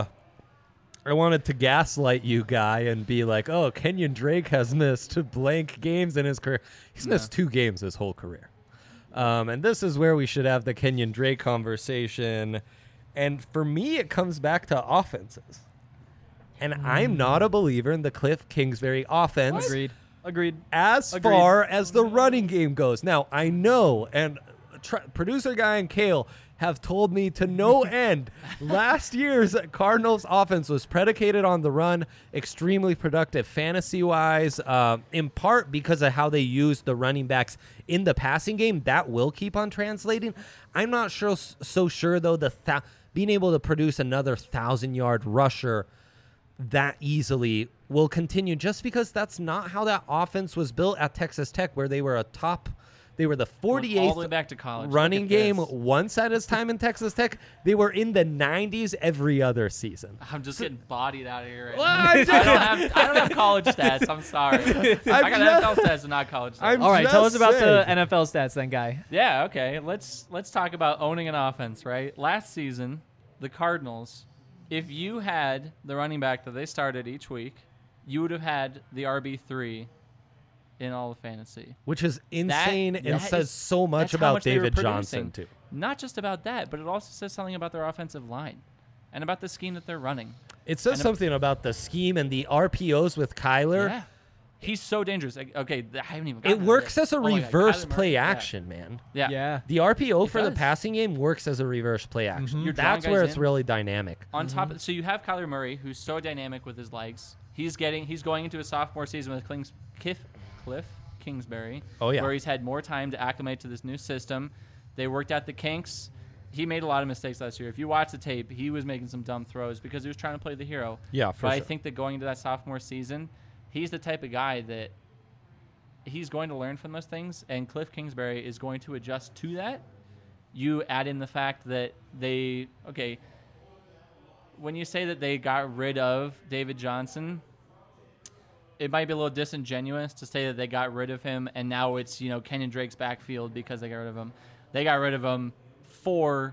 I wanted to gaslight you, guy, and be like, "Oh, Kenyon Drake has missed blank games in his career. He's No. missed two games his whole career." Um, and this is where we should have the Kenyon Drake conversation. And for me, it comes back to offenses. And I'm not a believer in the Cliff Kingsbury offense Agreed. Agreed. as Agreed. far as the running game goes. Now, I know, and tr- producer guy and Kale have told me to no end, last year's Cardinals offense was predicated on the run, extremely productive fantasy-wise, uh, in part because of how they used the running backs in the passing game. That will keep on translating. I'm not sure, so sure, though, the th- being able to produce another thousand-yard rusher that easily will continue, just because that's not how that offense was built at Texas Tech, where they were a top, they were the Went all the way forty-eighth back to college. Look running at game this. once at his time in Texas Tech. They were in the nineties every other season. I'm just getting bodied out of here. Right Well, now. I'm I don't have I don't have college stats. I'm sorry. I got N F L stats and not college stats. I'm All right, tell us just about the saying. N F L stats then, guy. Yeah, okay. Let's let's talk about owning an offense, right? Last season, the Cardinals, if you had the running back that they started each week, you would have had the R B three in all of fantasy. Which is insane and that says is- so much that's how about much they were David Johnson, producing. too. Not just about that, but it also says something about their offensive line and about the scheme that they're running. It says And- something about the scheme and the R P Os with Kyler. Yeah. He's so dangerous. Like, okay, th- I haven't even It gotten to works this. as a Oh my God, reverse Kyler Murray, play yeah. action, man. Yeah. Yeah. The R P O It for the does. passing game works as a reverse play action. You're drawing That's where guys it's in. really dynamic. On top of, so you have Kyler Murray, who's so dynamic with his legs. He's getting he's going into a sophomore season with Klings, Cliff, Cliff Kingsbury. Oh, yeah. Where he's had more time to acclimate to this new system. They worked out the kinks. He made a lot of mistakes last year. If you watch the tape, he was making some dumb throws because he was trying to play the hero. Yeah, for but I sure. think that going into that sophomore season, he's the type of guy that he's going to learn from those things, and Cliff Kingsbury is going to adjust to that. You add in the fact that they okay. When you say that they got rid of David Johnson, it might be a little disingenuous to say that they got rid of him and now it's, you know, Kenyon Drake's backfield because they got rid of him. They got rid of him for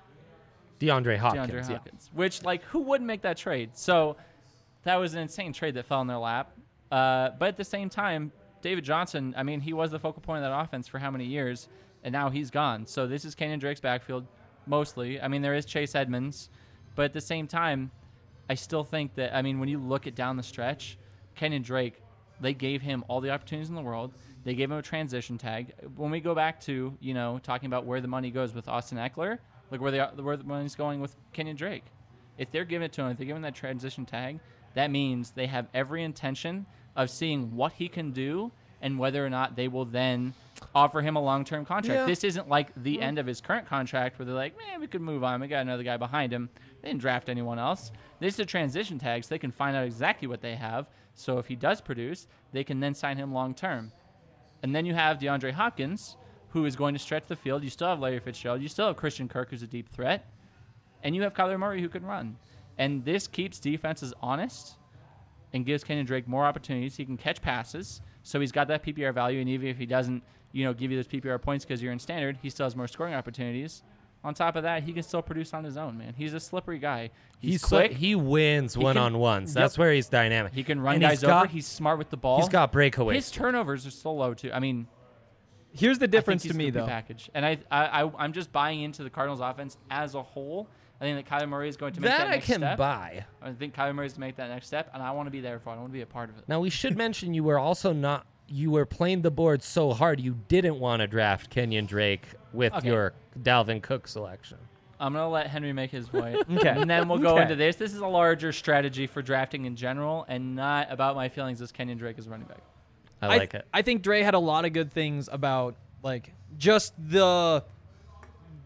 DeAndre Hopkins. DeAndre yeah. Hopkins, which, like, who wouldn't make that trade? So that was an insane trade that fell in their lap. Uh, but at the same time, David Johnson, I mean, he was the focal point of that offense for how many years, and now he's gone. So this is Kenyon Drake's backfield mostly. I mean, there is Chase Edmonds, but at the same time, I still think that, I mean, when you look at down the stretch, Kenyon Drake, they gave him all the opportunities in the world. They gave him a transition tag. When we go back to, you know, talking about where the money goes with Austin Eckler, look where, they, where the money's going with Kenyon Drake. If they're giving it to him, if they're giving that transition tag, that means they have every intention of seeing what he can do and whether or not they will then offer him a long-term contract. Yeah. This isn't like the end of his current contract where they're like, man, we could move on. We got another guy behind him. They didn't draft anyone else. This is a transition tag, so they can find out exactly what they have. So if he does produce, they can then sign him long-term. And then you have DeAndre Hopkins, who is going to stretch the field. You still have Larry Fitzgerald. You still have Christian Kirk, who's a deep threat. And you have Kyler Murray, who can run. And this keeps defenses honest and gives Kenyon Drake more opportunities. He can catch passes, so he's got that P P R value. And even if he doesn't, you know, give you those P P R points because you're in standard, he still has more scoring opportunities. On top of that, he can still produce on his own, man. He's a slippery guy. He's, He's quick. So, he wins He can- one-on-ones. That's Yep. where he's dynamic. he can run And guys he's got, over. He's smart with the ball. He's got breakaways. His turnovers are so low too. I mean, Here's the difference I think to he's me, a complete though. package. And I, I, I, I'm just buying into the Cardinals' offense as a whole. I think that Kyler Murray is going to make that, that I next can step. buy. I think Kyler Murray is to make that next step, and I want to be there for it. I want to be a part of it. Now, we should mention you were also not, you were playing the board so hard you didn't want to draft Kenyon Drake with Okay. your Dalvin Cook selection. I'm going to let Henry make his point. Okay. And then we'll go Okay. into this. This is a larger strategy for drafting in general and not about my feelings as Kenyon Drake is running back. I I like it. I think Dre had a lot of good things about like just the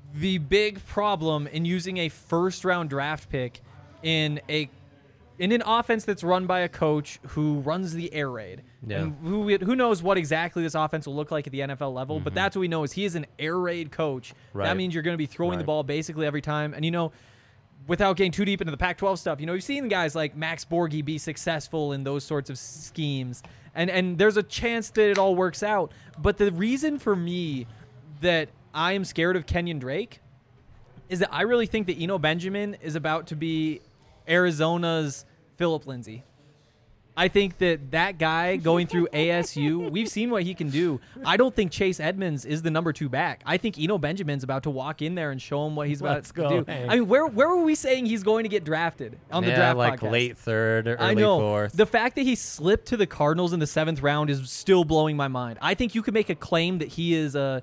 the big problem in using a first round draft pick in a in an offense that's run by a coach who runs the air raid. Yeah. And who who knows what exactly this offense will look like at the N F L level, mm-hmm. but that's what we know is he is an air raid coach. Right. That means you're going to be throwing right. the ball basically every time. And you know, without getting too deep into the Pac twelve stuff, you know, you've seen guys like Max Borghi be successful in those sorts of schemes. And and there's a chance that it all works out. But the reason for me that I am scared of Kenyon Drake is that I really think that Eno Benjamin is about to be Arizona's Phillip Lindsay. I think that that guy going through A S U, we've seen what he can do. I don't think Chase Edmonds is the number two back. I think Eno Benjamin's about to walk in there and show him what he's about Let's to go, do. hey. I mean, where where were we saying he's going to get drafted on the yeah, draft like podcast? late third or early I know. fourth. The fact that he slipped to the Cardinals in the seventh round is still blowing my mind. I think you could make a claim that he is a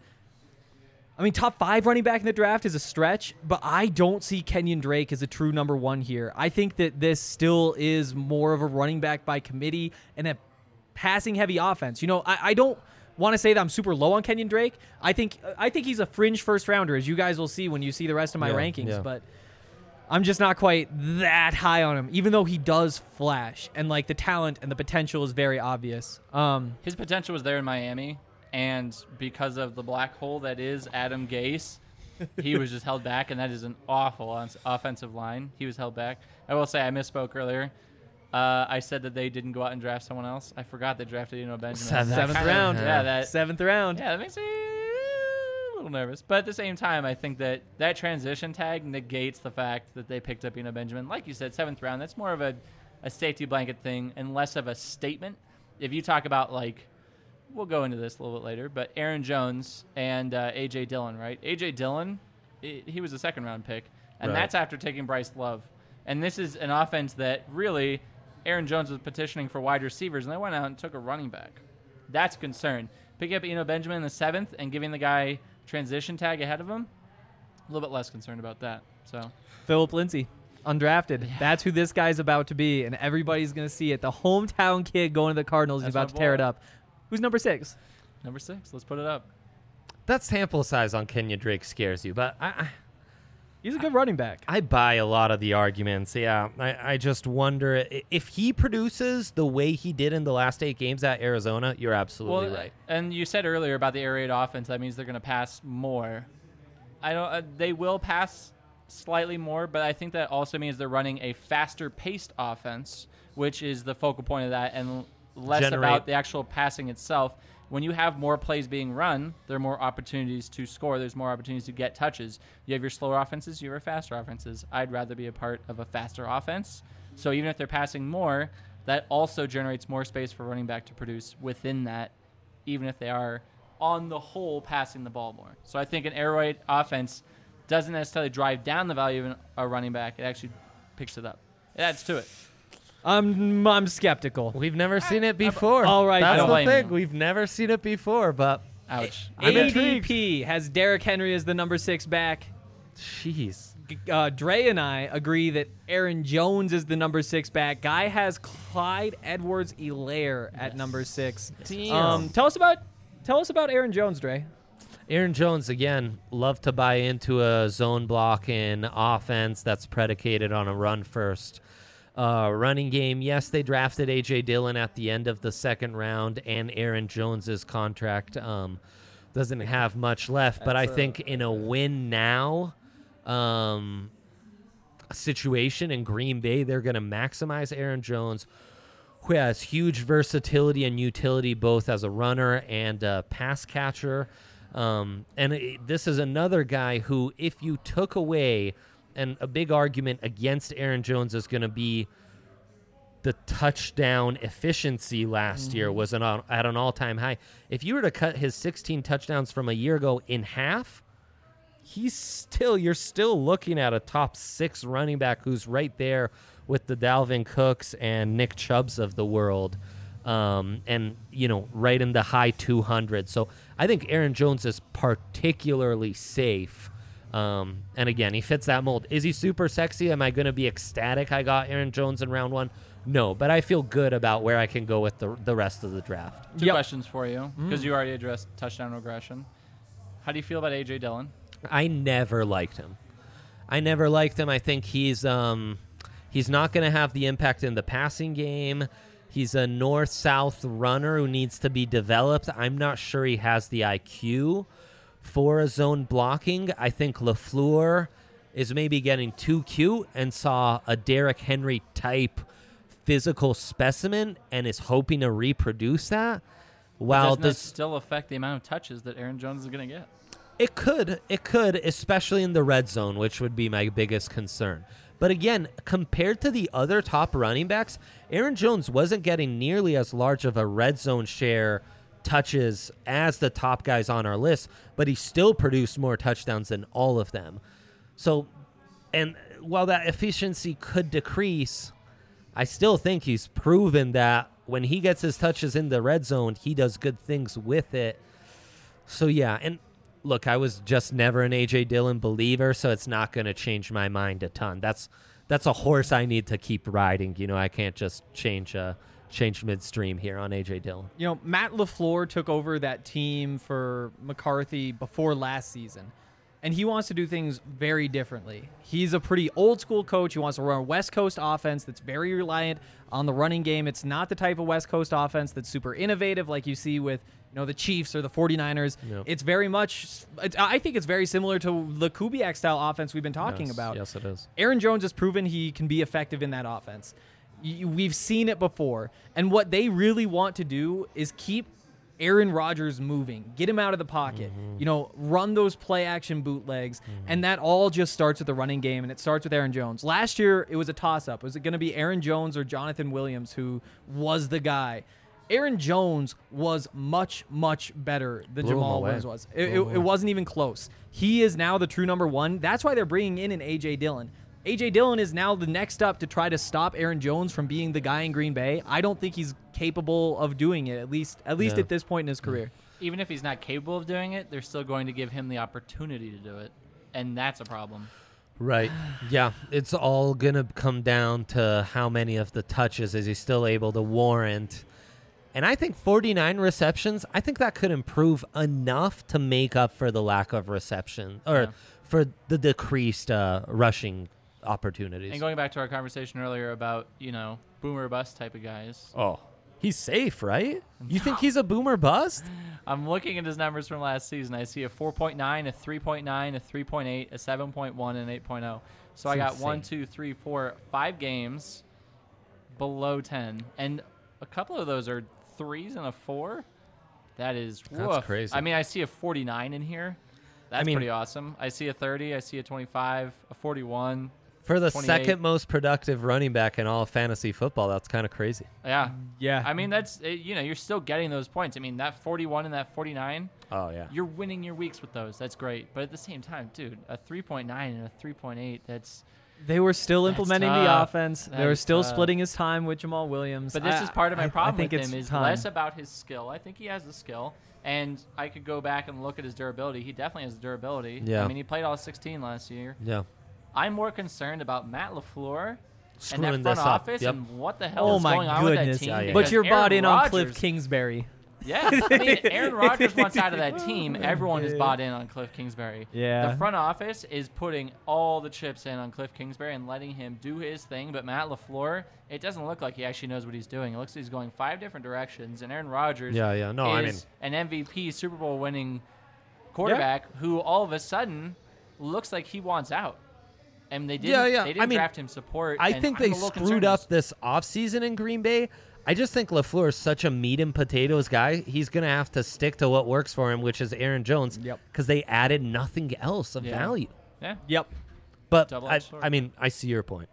I mean, top five running back in the draft is a stretch, but I don't see Kenyon Drake as a true number one here. I think that this still is more of a running back by committee and a passing-heavy offense. You know, I, I don't want to say that I'm super low on Kenyon Drake. I think I think he's a fringe first-rounder, as you guys will see when you see the rest of my Yeah, rankings, yeah. but I'm just not quite that high on him, even though he does flash, and, like, the talent and the potential is very obvious. Um, His potential was there in Miami. And because of the black hole that is Adam Gase, he was just held back, and that is an awful on- offensive line. He was held back. I will say I misspoke earlier. Uh, I said that they didn't go out and draft someone else. I forgot they drafted Eno Benjamin. Seventh. That Seventh kinda- round. Yeah, that seventh round. yeah, that makes me a little nervous. But at the same time, I think that that transition tag negates the fact that they picked up Eno Benjamin. Like you said, seventh round. That's more of a, a safety blanket thing and less of a statement. If you talk about, like, we'll go into this a little bit later, but Aaron Jones and uh, A J Dillon, right? A J Dillon, I he was a second-round pick, and Right. that's after taking Bryce Love. And this is an offense that really Aaron Jones was petitioning for wide receivers, and they went out and took a running back. That's a concern. Picking up Eno Benjamin in the seventh and giving the guy transition tag ahead of him, a little bit less concerned about that. So Phillip Lindsay, undrafted. That's who this guy's about to be, and everybody's going to see it. The hometown kid going to the Cardinals is That's about my to tear boy. it up. Who's number six? number six, let's put it up. That sample size on Kenyon Drake scares you, but I, I He's a good running back. I buy a lot of the arguments. Yeah, I, I just wonder i- if he produces the way he did in the last eight games at Arizona. You're absolutely Well, right. and you said earlier about the air raid offense. That means they're going to pass more. I don't. Uh, they will pass slightly more, but I think that also means they're running a faster-paced offense, which is the focal point of that, and less Generate- about the actual passing itself. When you have more plays being run, there are more opportunities to score. There's more opportunities to get touches. You have your slower offenses, you have your faster offenses. I'd rather be a part of a faster offense. So even if they're passing more, that also generates more space for running back to produce within that, even if they are on the whole passing the ball more. So I think an air raid offense doesn't necessarily drive down the value of an- a running back. It actually picks it up. It adds to it. I'm I'm skeptical. We've never seen it before. All right, that's I don't the blame thing. you. We've never seen it before, but Ouch. I'm A D intrigued. P has Derrick Henry as the number six back. jeez. Uh, Dre and I agree that Aaron Jones is the number six back. Guy has Clyde Edwards-Helaire at Yes. number six. Damn. Um, tell us about tell us about Aaron Jones, Dre. Aaron Jones, again, love to buy into a zone blocking offense that's predicated on a run first uh, running game. Yes, they drafted A J Dillon at the end of the second round, and Aaron Jones's contract um, doesn't have much left. But I That's a- think in a win now um, situation in Green Bay, they're going to maximize Aaron Jones, who has huge versatility and utility both as a runner and a pass catcher. Um, and it, this is another guy who, if you took away, and a big argument against Aaron Jones is going to be the touchdown efficiency last year was an, at an all-time high. If you were to cut his sixteen touchdowns from a year ago in half, he's still, you're still looking at a top six running back who's right there with the Dalvin Cooks and Nick Chubbs of the world. Um, and, you know, right in the high two hundreds. So I think Aaron Jones is particularly safe. Um, and again, he fits that mold. Is he super sexy? Am I going to be ecstatic I got Aaron Jones in round one? No, but I feel good about where I can go with the, the rest of the draft. Two Yep. questions for you, because you already addressed touchdown regression. How do you feel about A J Dillon? I never liked him. I never liked him. I think he's um, he's not going to have the impact in the passing game. He's a north-south runner who needs to be developed. I'm not sure he has the I Q for a zone blocking. I think LaFleur is maybe getting too cute and saw a Derrick Henry type physical specimen and is hoping to reproduce that. While Doesn't that does still affect the amount of touches that Aaron Jones is going to get? it could, it could, especially in the red zone, which would be my biggest concern. But again, compared to the other top running backs, Aaron Jones wasn't getting nearly as large of a red zone share touches as the top guys on our list, but he still produced more touchdowns than all of them. So, and while that efficiency could decrease, I still think he's proven that when he gets his touches in the red zone, he does good things with it. So, yeah, and look, I was just never an A J Dillon believer, so it's not going to change my mind a ton. That's that's a horse I need to keep riding. You know, I can't just change uh, change midstream here on A J Dillon. You know, Matt LaFleur took over that team for McCarthy before last season, and he wants to do things very differently. He's a pretty old school coach. He wants to run a West Coast offense that's very reliant on the running game. It's not the type of West Coast offense that's super innovative like you see with, you know, the Chiefs or the 49ers. Yep. It's very much, it's, I think it's very similar to the Kubiak-style offense we've been talking Yes, about. yes, it is. Aaron Jones has proven he can be effective in that offense. Y- We've seen it before. And what they really want to do is keep Aaron Rodgers moving, get him out of the pocket, Mm-hmm. you know, run those play action bootlegs. And that all just starts with the running game, and it starts with Aaron Jones. Last year, it was a toss up. Was it going to be Aaron Jones or Jonathan Williams who was the guy? Aaron Jones was much, much better than Blew him Jamal away. Williams was. It, Blew it, him it away. wasn't even close. He is now the true number one. That's why they're bringing in an A J Dillon. A J Dillon is now the next up to try to stop Aaron Jones from being the guy in Green Bay. I don't think he's capable of doing it, at least at least Yeah. at this point in his career. Even if he's not capable of doing it, they're still going to give him the opportunity to do it. And that's a problem. Right. Yeah. It's all going to come down to how many of the touches is he still able to warrant. And I think forty-nine receptions, I think that could improve enough to make up for the lack of reception or Yeah. for the decreased uh, rushing opportunities. And going back to our conversation earlier about, you know, boomer bust type of guys, oh, he's safe, right? You think he's a boomer bust? I'm looking at his numbers from last season. I see a four point nine, a three point nine, a three point eight, a seven point one, and an eight point oh. So I That's got one, insane. two, three, four, five games below ten. And a couple of those are threes and a four. That is That's woof. crazy. I mean, I see a forty-nine in here. That's mean- pretty awesome. I see a thirty. I see a twenty-five, a forty-one. For the twenty-eight. second most productive running back in all of fantasy football, that's kind of crazy. Yeah. Yeah. I mean, that's, it, you know, you're still getting those points. I mean, that forty-one and that forty-nine, Oh, yeah. you're winning your weeks with those. That's great. But at the same time, dude, a three point nine and a three point eight, that's. They were still That's implementing the tough. offense. That they were is still tough. splitting his time with Jamal Williams. But this I- is part of my I- I problem think with it's him is time. less about his skill. I think he has the skill. And I could go back and look at his durability. He definitely has durability. Yeah. I mean, he played all sixteen last year. Yeah. I'm more concerned about Matt LaFleur and Screwing that front this up. office Yep. and what the hell Oh is my going on with that goodness! team. Yeah, yeah, But because you're bought Aaron in on Cliff Rodgers- Kingsbury. Yeah, I mean, Aaron Rodgers wants out of that team. Everyone is bought in on Cliff Kingsbury. Yeah. The front office is putting all the chips in on Cliff Kingsbury and letting him do his thing. But Matt LaFleur, it doesn't look like he actually knows what he's doing. It looks like he's going five different directions. And Aaron Rodgers Yeah, yeah. No, I mean- is an M V P, Super Bowl winning quarterback who all of a sudden looks like he wants out. And they didn't, Yeah, yeah. They didn't I mean, draft him support. I and think I'm they a little screwed concerned. up this offseason in Green Bay. I just think LaFleur is such a meat and potatoes guy. He's going to have to stick to what works for him, which is Aaron Jones, Yep. because they added nothing else of Yeah. value. Yeah. Yep. But I, Double-edged sword. I mean, I see your point.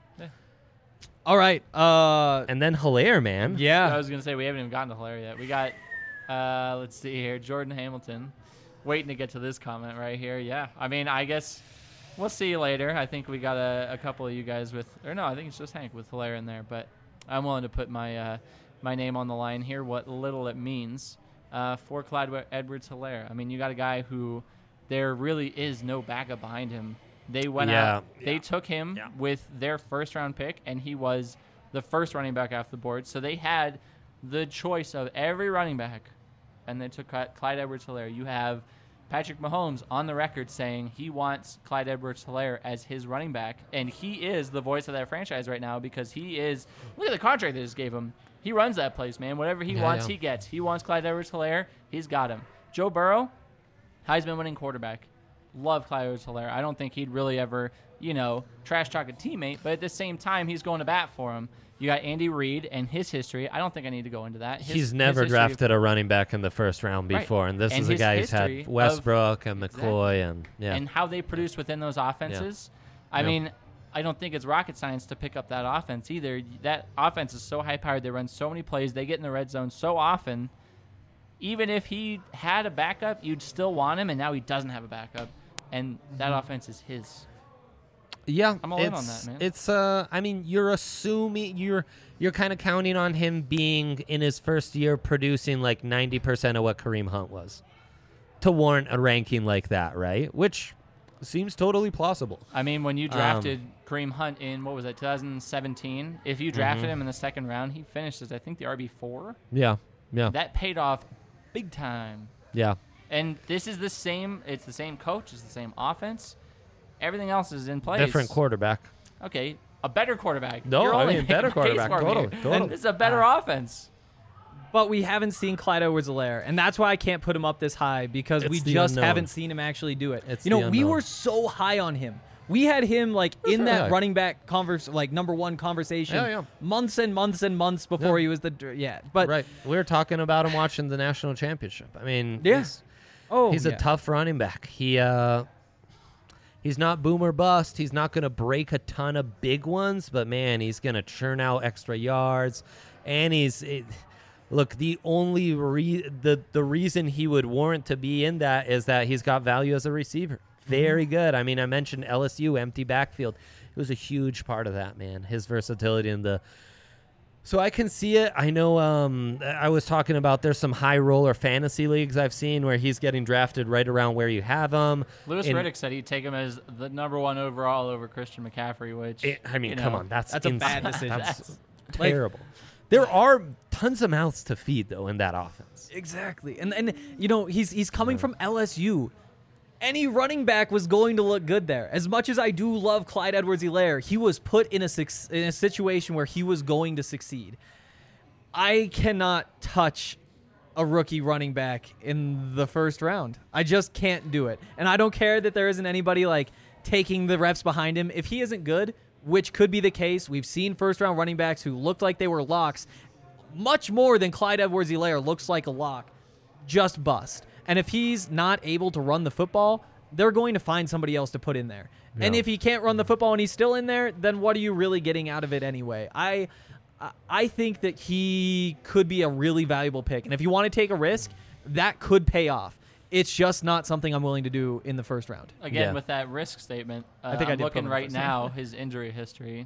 All right. Uh. And then Hilaire, man. I Yeah. was gonna say we haven't even gotten to Hilaire yet. We got, uh, let's see here, Jordan Hamilton, waiting to get to this comment right here. Yeah, I mean, I guess we'll see you later. I think we got a, a couple of you guys with, or no, I think it's just Hank with Hilaire in there. But I'm willing to put my uh, my name on the line here. What little it means uh, for Clyde Edwards Hilaire. I mean, you got a guy who there really is no backup behind him. They went Yeah. out, they took him Yeah. with their first round pick, and he was the first running back off the board. So they had the choice of every running back, and they took Clyde Edwards-Helaire. You have Patrick Mahomes on the record saying he wants Clyde Edwards-Helaire as his running back, and he is the voice of that franchise right now because he is – look at the contract they just gave him. He runs that place, man. Whatever he Yeah, wants, yeah. he gets. He wants Clyde Edwards-Helaire. He's got him. Joe Burrow, Heisman-winning quarterback. Love Clyde Edwards-Helaire. I don't think he'd really ever, you know, trash-talk a teammate, but at the same time, he's going to bat for him. You got Andy Reid and his history. I don't think I need to go into that. His, He's never his history- drafted a running back in the first round Right. before, and this And is a his guy who's history had of- Westbrook and Exactly. McCoy and yeah. and how they produce within those offenses. I Yeah. mean, I don't think it's rocket science to pick up that offense either. That offense is so high-powered. They run so many plays. They get in the red zone so often. Even if he had a backup, you'd still want him, and now he doesn't have a backup. And that Mm-hmm. offense is his. Yeah, I'm all it's, in on that, man. It's uh, I mean, you're assuming you're you're kind of counting on him being in his first year producing like ninety percent of what Kareem Hunt was to warrant a ranking like that, right? Which seems totally plausible. I mean, when you Um, drafted Kareem Hunt in, what was it, twenty seventeen? If you drafted Mhm. him in the second round, he finished as, I think, the R B four. Yeah, yeah, That paid off big time. yeah. And this is the same. It's the same coach. It's the same offense. Everything else is in place. Different quarterback. Okay, a better quarterback. No, You're I only mean, making better a case quarterback. for me. Totally, totally. And this is a better offense. But we haven't seen Clyde Edwards-Helaire, and that's why I can't put him up this high because we It's the just unknown. haven't seen him actually do it. It's you know, the we unknown. were so high on him. We had him like That's in that right. running back converse, like number one conversation, Yeah, yeah. months and months and months before Yeah. he was the dr- yeah. But right, we were talking about him watching the national championship. I mean, Yeah. he's, oh, he's yeah. a tough running back. He uh, he's not boom or bust. He's not going to break a ton of big ones, but man, he's going to churn out extra yards, and he's. It, Look, the only re- the the reason he would warrant to be in that is that he's got value as a receiver. Very good. I mean, I mentioned L S U empty backfield. It was a huge part of that, man. His versatility in the. So I can see it. I know. Um, I was talking about there's some high roller fantasy leagues I've seen where he's getting drafted right around where you have him. Lewis In- Riddick said he'd take him as the number one overall over Christian McCaffrey, which It- I mean, you come know, on, that's That's a insane. bad decision. That's Like- terrible. There are tons of mouths to feed though in that offense. Exactly. And and you know, he's he's coming from L S U. Any running back was going to look good there. As much as I do love Clyde Edwards-Helaire, he was put in a suc- in a situation where he was going to succeed. I cannot touch a rookie running back in the first round. I just can't do it. And I don't care that there isn't anybody like taking the reps behind him. If he isn't good, which could be the case, we've seen first round running backs who looked like they were locks much more than Clyde Edwards-Helaire looks like a lock, just bust. And if he's not able to run the football, they're going to find somebody else to put in there. And Yeah. if he can't run the football and he's still in there, then what are you really getting out of it anyway? I I- I think that he could be a really valuable pick. And if you want to take a risk, that could pay off. It's just not something I'm willing to do in the first round. Again, Yeah. with that risk statement, uh, I think I I'm did put looking him right first. now his injury history.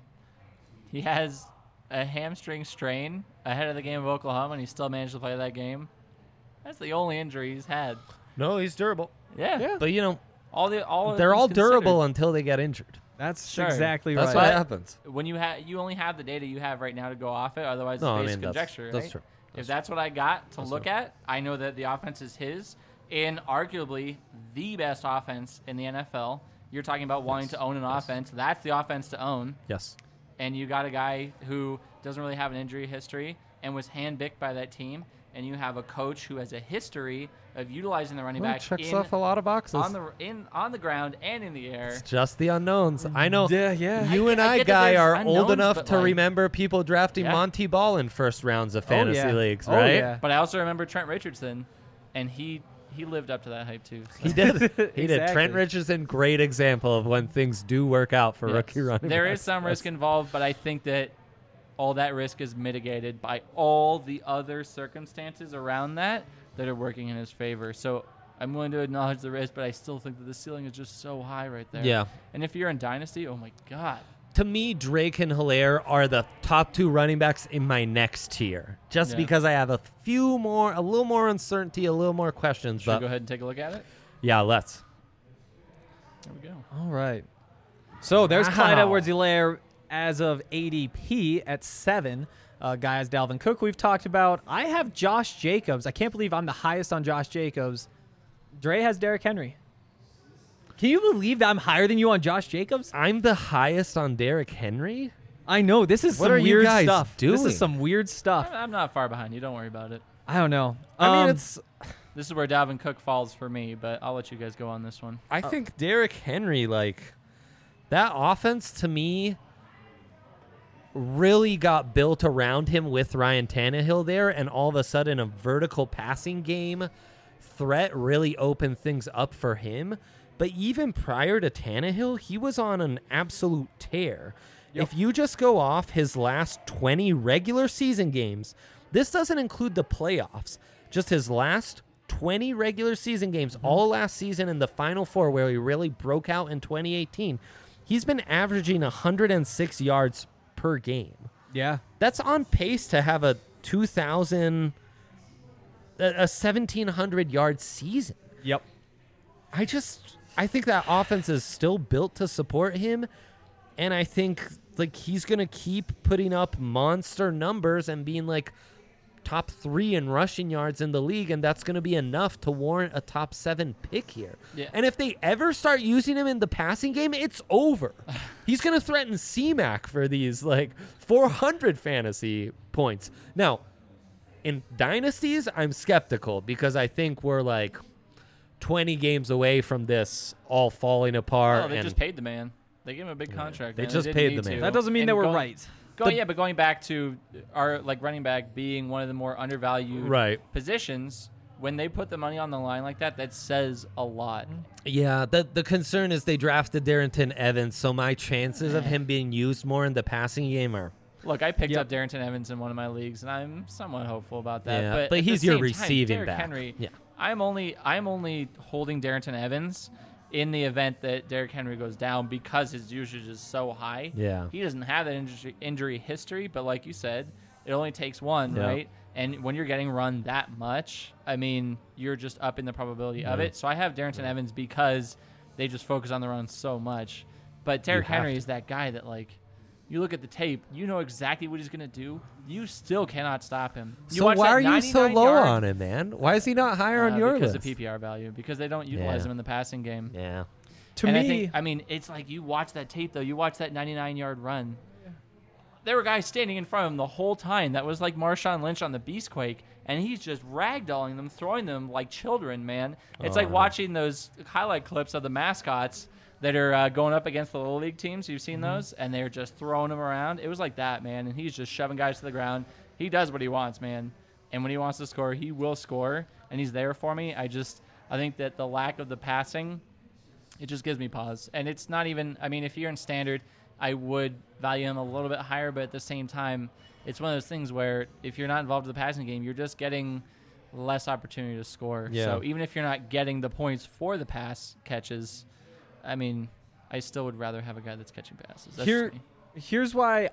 He has a hamstring strain ahead of the game of Oklahoma, and he still managed to play that game. That's the only injury he's had. No, he's durable. Yeah, But you know, all the all they're things all considered. durable until they get injured. That's Sure. exactly That's right. what But- happens. When you have you only have the data you have right now to go off it, otherwise No, I it's mean, basic that's- conjecture. that's right? true. If that's what I got to That's look true. at, I know that the offense is his, and arguably the best offense in the N F L. You're talking about wanting Yes. to own an Yes. offense. That's the offense to own. Yes. And you got a guy who doesn't really have an injury history and was handpicked by that team, and you have a coach who has a history of utilizing the running Well, back checks in, off a lot of boxes. on the in on the ground and in the air. It's just the unknowns. I know. Yeah, yeah. You I and get- I I, get that guy, there's are unknowns, old enough but, to like- remember people drafting Yeah. Monty Ball in first rounds of Oh, fantasy yeah. leagues, Oh, right? yeah. But I also remember Trent Richardson, and he he lived up to that hype too. so. He did. He did. Exactly. Trent Richardson, great example of when things do work out for Yes. rookie running There backs. is some risk Yes. involved, but I think that all that risk is mitigated by all the other circumstances around that that are working in his favor. So I'm willing to acknowledge the risk, but I still think that the ceiling is just so high right there. Yeah. And if you're in Dynasty, oh my God. To me, Drake and Hilaire are the top two running backs in my next tier, just Yeah. because I have a few more, a little more uncertainty, a little more questions. Should we But go ahead and take a look at it? yeah, let's. There we go. All right. So there's Wow. Clyde Edwards-Helaire as of A D P at seven. Uh, guys, Dalvin Cook we've talked about. I have Josh Jacobs. I can't believe I'm the highest on Josh Jacobs. Dre has Derrick Henry. Can you believe that I'm higher than you on Josh Jacobs? I'm the highest on Derrick Henry? I know. This is What some are you weird guys stuff. This doing? is some weird stuff. I'm not far behind you. Don't worry about it. I don't know. I mean, Um, it's. This is where Dalvin Cook falls for me, but I'll let you guys go on this one. I think Derrick Henry, like, that offense to me really got built around him with Ryan Tannehill there, and all of a sudden a vertical passing game threat really opened things up for him. But even prior to Tannehill, he was on an absolute tear. Yep. If you just go off his last twenty regular season games, this doesn't include the playoffs, just his last twenty regular season games, Mm-hmm. all last season in the Final Four where he really broke out in twenty eighteen, he's been averaging one hundred six yards per game. yeah. That's on pace to have a two thousand, a, a seventeen hundred yard season. Yep. I just, I think that offense is still built to support him, and I think like he's gonna keep putting up monster numbers and being like top three in rushing yards in the league, and that's gonna be enough to warrant a top seven pick here. Yeah. And if they ever start using him in the passing game, it's over. He's gonna threaten C-Mac for these like four hundred fantasy points. Now, in dynasties, I'm skeptical because I think we're like twenty games away from this all falling apart. Oh, they and just paid the man. They gave him a big contract. They man. just didn't paid need the man. to. That doesn't mean And they were going- right. Going, yeah, but going back to our like running back being one of the more undervalued Right. positions, when they put the money on the line like that, that says a lot. Yeah, the the concern is they drafted Darrington Evans, so my chances of him being used more in the passing game are Look, I picked Yep. up Darrington Evans in one of my leagues, and I'm somewhat hopeful about that. Yeah, but but at he's the your same receiving time, Derrick back. Henry, Yeah. I'm only I'm only holding Darrington Evans in the event that Derrick Henry goes down because his usage is so high. Yeah. He doesn't have that injury, injury history, but like you said, it only takes one, Yeah. right? And when you're getting run that much, I mean, you're just up in the probability of Yeah. it. So I have Darrington Evans because they just focus on the run so much. But Derrick have Henry to. is that guy that, like, you look at the tape, you know exactly what he's going to do. You still cannot stop him. You So watch why that are you so ninety-nine low yard, on him, man? Why is he not higher uh, on your because list? of P P R value, because they don't utilize Yeah. him in the passing game. Yeah. To and me, I think, I mean, it's like you watch that tape though. You watch that ninety-nine yard run. There were guys standing in front of him the whole time. That was like Marshawn Lynch on the Beastquake, and he's just ragdolling them, throwing them like children. Man, it's like Oh. watching those highlight clips of the mascots that are uh, going up against the little league teams. You've seen those, and they're just throwing them around. It was like that, man. And he's just shoving guys to the ground. He does what he wants, man. And when he wants to score, he will score, and he's there for me. I just, I think that the lack of the passing, it just gives me pause. And it's not even, I mean, if you're in standard, I would value him a little bit higher, but at the same time, it's one of those things where if you're not involved in the passing game, you're just getting less opportunity to score. Yeah. So even if you're not getting the points for the pass catches, I mean, I still would rather have a guy that's catching passes. That's Here, just me. here's why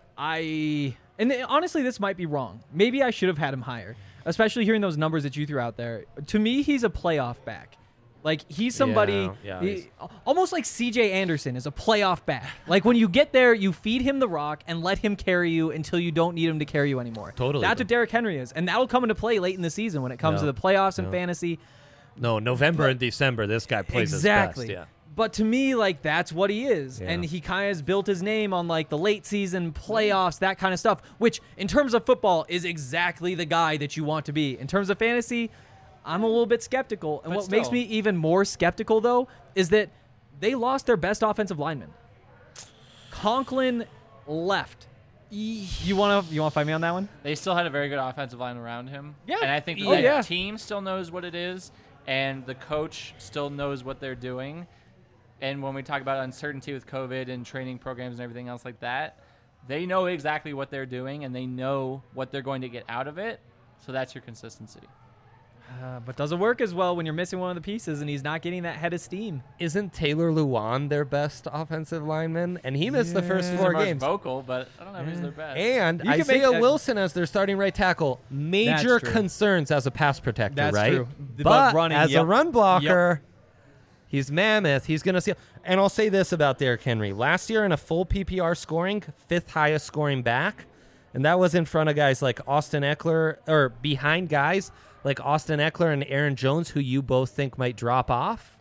I and honestly, this might be wrong. Maybe I should have had him higher, especially hearing those numbers that you threw out there. To me, he's a playoff back. Like he's somebody, Yeah, yeah, he- he's- almost like C J Anderson is a playoff back. Like when you get there, you feed him the rock and let him carry you until you don't need him to carry you anymore. Totally. That's what Derrick Henry is, and that'll come into play late in the season when it comes Yeah. to the playoffs and Yeah. fantasy. No, November and December, this guy plays Exactly. his best. Yeah. But to me, like that's what he is, Yeah. and he kind of has built his name on like the late season playoffs, that kind of stuff. Which, in terms of football, is exactly the guy that you want to be. In terms of fantasy, I'm a little bit skeptical, and But what makes still. me even more skeptical though is that they lost their best offensive lineman. Conklin left. You want to you want to fight me on that one? They still had a very good offensive line around him. Yeah. And I think Oh, that yeah. team still knows what it is, and the coach still knows what they're doing. And when we talk about uncertainty with COVID and training programs and everything else like that, they know exactly what they're doing, and they know what they're going to get out of it. So that's your consistency. Uh, but doesn't work as well when you're missing one of the pieces and he's not getting that head of steam. Isn't Taylor Lewan their best offensive lineman? And he missed the first Yeah. four They're most games. vocal, but I don't know if he's their best. And You can Isaiah make- uh, Wilson as their starting right tackle. Major true. concerns as a pass protector, That's right? true. But But running, as a yep. run blocker, he's mammoth. He's going to see. And I'll say this about Derrick Henry. Last year in a full P P R scoring, fifth highest scoring back. And that was in front of guys like Austin Eckler, or behind guys like Austin Eckler and Aaron Jones, who you both think might drop off,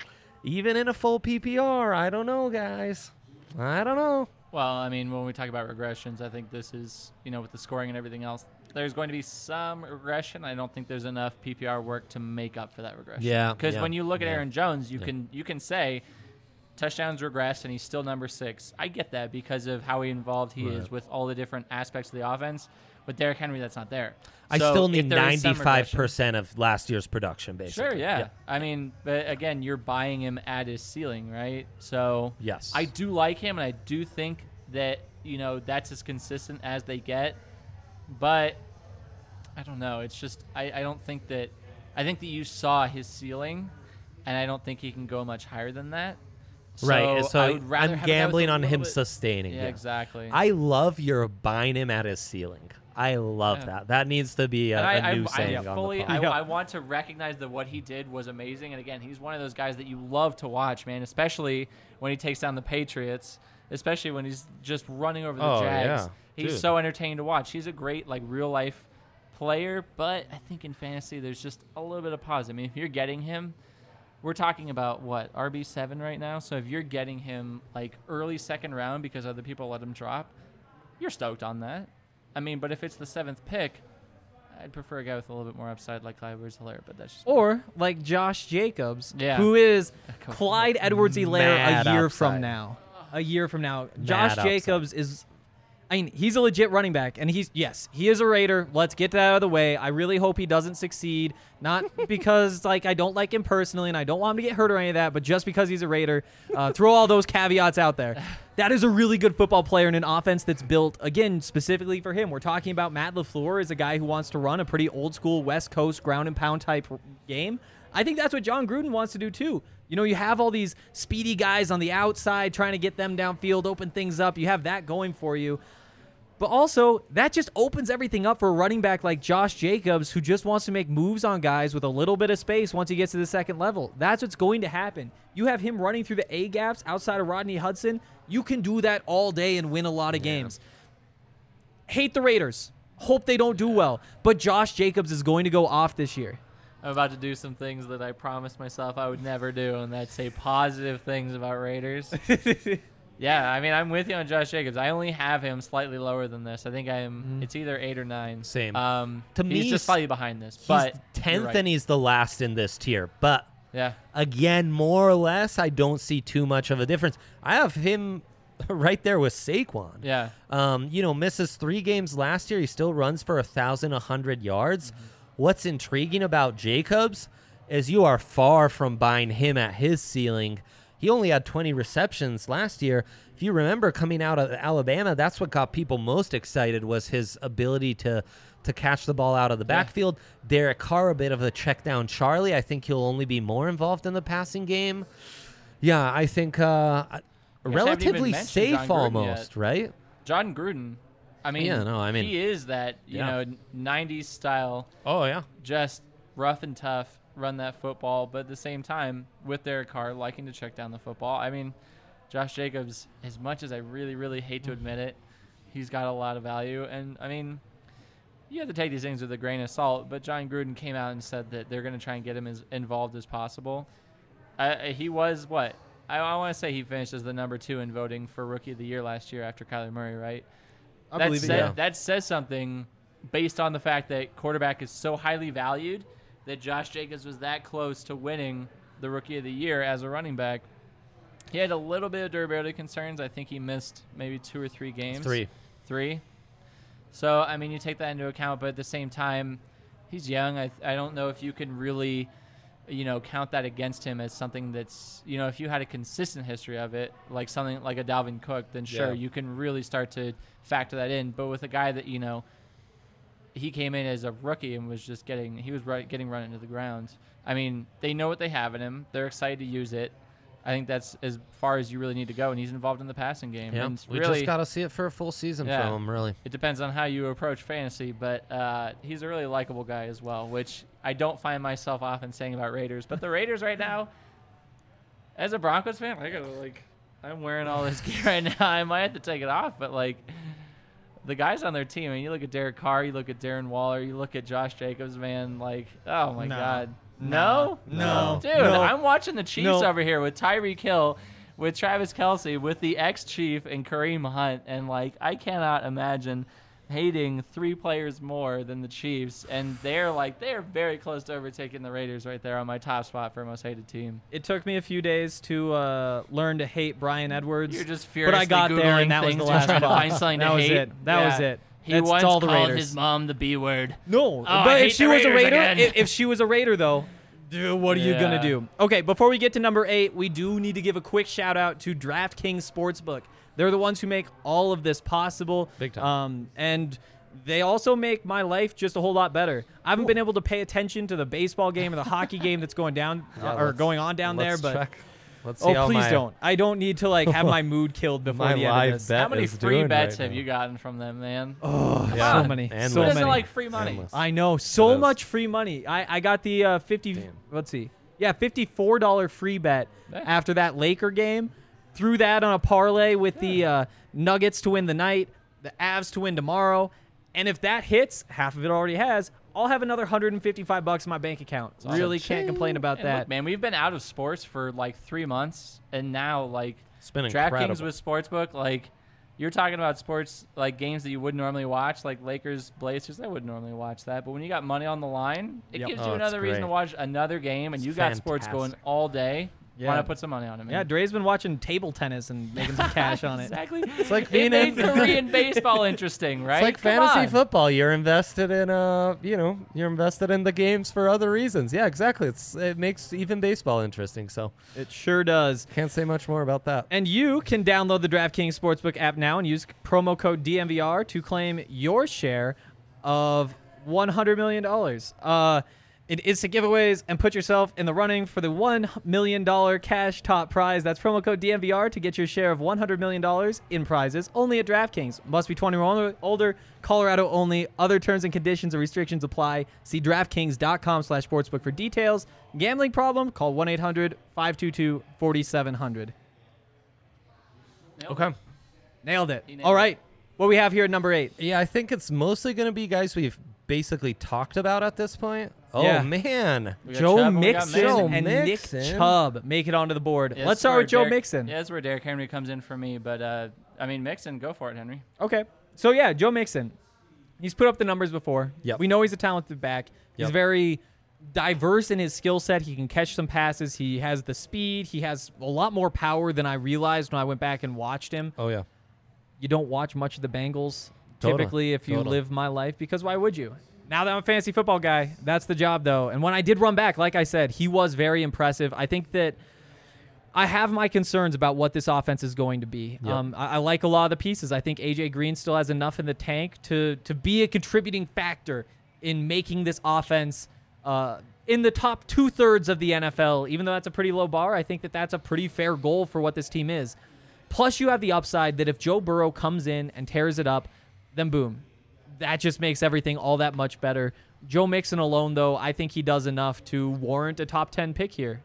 even in a full P P R, I don't know, guys. I don't know. Well, I mean, when we talk about regressions, I think this is, you know, with the scoring and everything else, there's going to be some regression. I don't think there's enough P P R work to make up for that regression. Yeah, Because yeah, when you look at yeah. Aaron Jones, you Yeah. can you can say touchdowns regressed and he's still number six. I get that because of how involved he Right. is with all the different aspects of the offense. With Derrick Henry, that's not there. I So still if need there is some ninety-five regression- percent of last year's production, basically. Sure, yeah. I mean, but again, you're buying him at his ceiling, right? So Yes. I do like him, and I do think that, you know, that's as consistent as they get. But I don't know. It's just I, I don't think that – I think that you saw his ceiling, and I don't think he can go much higher than that. Right. So So I would rather I'm have a guy with gambling a on little him bit- sustaining. Yeah, Yeah, exactly. I love your buying him at his ceiling. I love Yeah. that. That needs to be a, And I, a new I, saying I on the fully, pod. I, Yeah. I want to recognize that what he did was amazing. And again, he's one of those guys that you love to watch, man. Especially when he takes down the Patriots. Especially when he's just running over the Oh, Jags. yeah. He's Dude. so entertaining to watch. He's a great like real life player, but I think in fantasy there's just a little bit of pause. I mean, if you're getting him, we're talking about what R B seven right now. So if you're getting him like early second round because other people let him drop, you're stoked on that. I mean, but if it's the seventh pick, I'd prefer a guy with a little bit more upside like Clyde Edwards-Helaire, but that's just Or like Josh Jacobs, Yeah. who is Go for it. Clyde Edwards-Helaire Mad a year upside. from now. A year from now, Josh upside. Jacobs is. I mean, he's a legit running back, and he's yes, he is a Raider. Let's get that out of the way. I really hope he doesn't succeed, not because like I don't like him personally, and I don't want him to get hurt or any of that, but just because he's a Raider. Uh, throw all those caveats out there. That is a really good football player in an offense that's built again specifically for him. We're talking about Matt LaFleur is a guy who wants to run a pretty old school West Coast ground and pound type game. I think that's what John Gruden wants to do too. You know, you have all these speedy guys on the outside trying to get them downfield, open things up. You have that going for you. But also, that just opens everything up for a running back like Josh Jacobs, who just wants to make moves on guys with a little bit of space once he gets to the second level. That's what's going to happen. You have him running through the A-gaps outside of Rodney Hudson. You can do that all day and win a lot of games. Hate the Raiders. Hope they don't do well. But Josh Jacobs is going to go off this year. I'm about to do some things that I promised myself I would never do, and that's say positive things about Raiders. Yeah, I mean, I'm with you on Josh Jacobs. I only have him slightly lower than this. I think I'm. It's either eight or nine. Same. Um, To he's me, just he's- slightly behind this, He's but tenth you're right. and he's the last in this tier. But yeah, again, more or less, I don't see too much of a difference. I have him right there with Saquon. yeah. Um, you know, misses three games last year. He still runs for a thousand a hundred yards. Mm-hmm. What's intriguing about Jacobs is you are far from buying him at his ceiling. He only had twenty receptions last year. If you remember coming out of Alabama, that's what got people most excited was his ability to to catch the ball out of the Yeah. backfield. Derek Carr, a bit of a check down Charlie. I think he'll only be more involved in the passing game. Yeah, I think uh, haven't even relatively mentioned safe John Gruden almost, yet. right? John Gruden. I mean, Yeah, no, I mean- he is that you Yeah. know nineties style, Oh, yeah. just rough and tough, run that football, but at the same time with Derek Carr liking to check down the football. I mean, Josh Jacobs, as much as I really, really hate to admit it, he's got a lot of value. And, I mean, you have to take these things with a grain of salt, but John Gruden came out and said that they're going to try and get him as involved as possible. Uh, he was, what? I, I want to say he finished as the number two in voting for Rookie of the Year last year after Kyler Murray, right? I that, believe it, said- yeah. that says something based on the fact that quarterback is so highly valued that Josh Jacobs was that close to winning the Rookie of the Year as a running back. He had a little bit of durability concerns. I think he missed maybe two or three games. Three. Three. So, I mean, you take that into account, but at the same time, he's young. I, I don't know if you can really, you know, count that against him as something that's, you know, if you had a consistent history of it, like something like a Dalvin Cook, then sure, Yeah. you can really start to factor that in. But with a guy that, you know, he came in as a rookie and was just getting, he was right, getting run into the ground. I mean, they know what they have in him. They're excited to use it. I think that's as far as you really need to go, and he's involved in the passing game. Yeah, And we really, just got to see it for a full season Yeah. from him, really. it depends on how you approach fantasy, but uh, he's a really likable guy as well, which I don't find myself often saying about Raiders. But the Raiders right now, as a Broncos fan, I gotta like, I'm wearing all this gear right now. I might have to take it off, but like, the guys on their team. I mean, you look at Derek Carr, you look at Darren Waller, you look at Josh Jacobs, man. Like, oh my No. God, No. no, No. dude. No. I'm watching the Chiefs No. over here with Tyreek Hill, with Travis Kelce, with the ex-Chief and Kareem Hunt, and like, I cannot imagine hating three players more than the Chiefs, and they're like they're very close to overtaking the Raiders right there on my top spot for most hated team. It took me a few days to uh, learn to hate Brian Edwards. You're just but furiously I got Googling there, and that was things the to last try to spot. find something that to was hate. it. That Yeah. was it. He That's once all the called Raiders. his mom the B word. No, Oh, I but hate if she the was a Raiders Raider, again. if, if she was a Raider though, dude, what are you gonna Yeah. do? Okay, before we get to number eight, we do need to give a quick shout out to DraftKings Sportsbook. They're the ones who make all of this possible. Big time. Um, and they also make my life just a whole lot better. I haven't been able to pay attention to the baseball game or the hockey game that's going down Yeah, or let's- going on down there, let's but check. Let's see oh, how please my, don't. I don't need to like have my mood killed before my the end live of this. bet How many is free doing bets right have now. you gotten from them, man? Oh, Yeah. so many, Endless. so Who doesn't many. like free money? Endless. I know so is. much free money. I, I got the uh, fifty. Damn. Let's see, yeah, fifty-four dollar free bet Yeah. after that Laker game. Threw that on a parlay with the uh, Nuggets to win the night, the Avs to win tomorrow, and if that hits, half of it already has. I'll have another one hundred fifty-five bucks in my bank account. awesome. Really can't complain about And that. look, man, we've been out of sports for like three months, and now like It's been DraftKings incredible. with Sportsbook, like you're talking about sports like games that you wouldn't normally watch, like Lakers, Blazers. I wouldn't normally watch that, but when you got money on the line, it Yep. gives Oh, you it's another reason to great. watch another game, and It's you got sports going fantastic. all day. Yeah. Why not put some money on it, man? Yeah, Dre's been watching table tennis and making some cash on it. Exactly. It's like It being made in Korean baseball interesting, right? It's like Come fantasy on. football. You're invested in uh, you know, you're invested in the games for other reasons. Yeah, exactly. It's it makes even baseball interesting. So It sure does. can't say much more about that. And you can download the DraftKings Sportsbook app now and use promo code D M V R to claim your share of one hundred million dollars. Uh, in instant giveaways and put yourself in the running for the one million dollars cash top prize. That's promo code D M V R to get your share of one hundred million dollars in prizes only at DraftKings. Must be twenty-one or older, Colorado only. Other terms and conditions and restrictions apply. See DraftKings.com slash sportsbook for details. Gambling problem? Call one eight hundred five two two four seven zero zero. Nailed Okay. Nailed it. He nailed All it. right. What we have here at number eight. Yeah, I think it's mostly going to be guys we've basically talked about at this point. Oh Yeah. man. We got Joe Chubb and we got Mixon Joe and Mixon. Nick Chubb make it onto the board. Yeah, Let's that's start where with Joe Derrick- Mixon. Yeah, that's where Derrick Henry comes in for me. But uh, I mean, Mixon, go for it, Henry. Okay. So, yeah, Joe Mixon. He's put up the numbers before. Yep. We know he's a talented back. He's Yep. very diverse in his skill set. He can catch some passes. He has the speed. He has a lot more power than I realized when I went back and watched him. Oh yeah. You don't watch much of the Bengals Totally. typically if you Totally. live my life, because why would you? Now that I'm a fantasy football guy, that's the job, though. And when I did run back, like I said, he was very impressive. I think that I have my concerns about what this offense is going to be. Yep. Um, I, I like a lot of the pieces. I think A J Green still has enough in the tank to to be a contributing factor in making this offense uh, in the top two thirds of the N F L. Even though that's a pretty low bar, I think that that's a pretty fair goal for what this team is. Plus, you have the upside that if Joe Burrow comes in and tears it up, then boom, that just makes everything all that much better. Joe Mixon alone, though, I think he does enough to warrant a top ten pick here.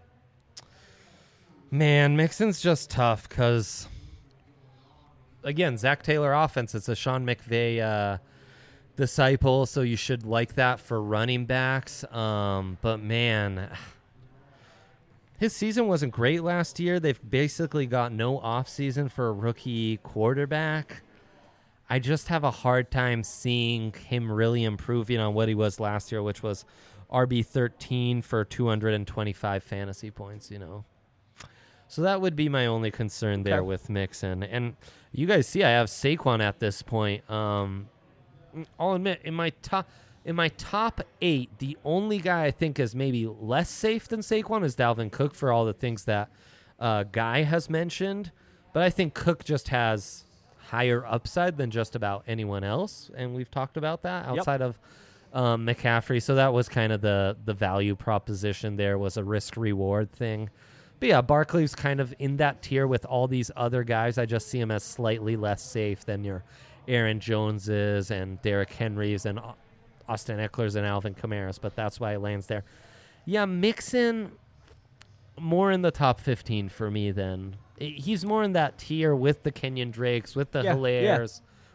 Man, Mixon's just tough because, again, Zach Taylor offense. It's a Sean McVay uh, disciple, so you should like that for running backs. Um, but man, his season wasn't great last year. They've basically got no offseason for a rookie quarterback. I just have a hard time seeing him really improving on what he was last year, which was R B thirteen for two hundred twenty-five fantasy points, you know. So that would be my only concern there Okay. with Mixon. And you guys see I have Saquon at this point. Um, I'll admit, in my top in my top eight, the only guy I think is maybe less safe than Saquon is Dalvin Cook for all the things that uh, Guy has mentioned. But I think Cook just has higher upside than just about anyone else, and we've talked about that outside of um, McCaffrey. So that was kind of the the value proposition there, was a risk reward thing. But yeah, Barkley's kind of in that tier with all these other guys. I just see him as slightly less safe than your Aaron Joneses and Derrick Henrys and Austin Eckler's and Alvin Kamara's, but that's why he lands there. Yeah, Mixon more in the top fifteen for me then. He's more in that tier with the Kenyon Drakes, with the Yeah, Hilairs,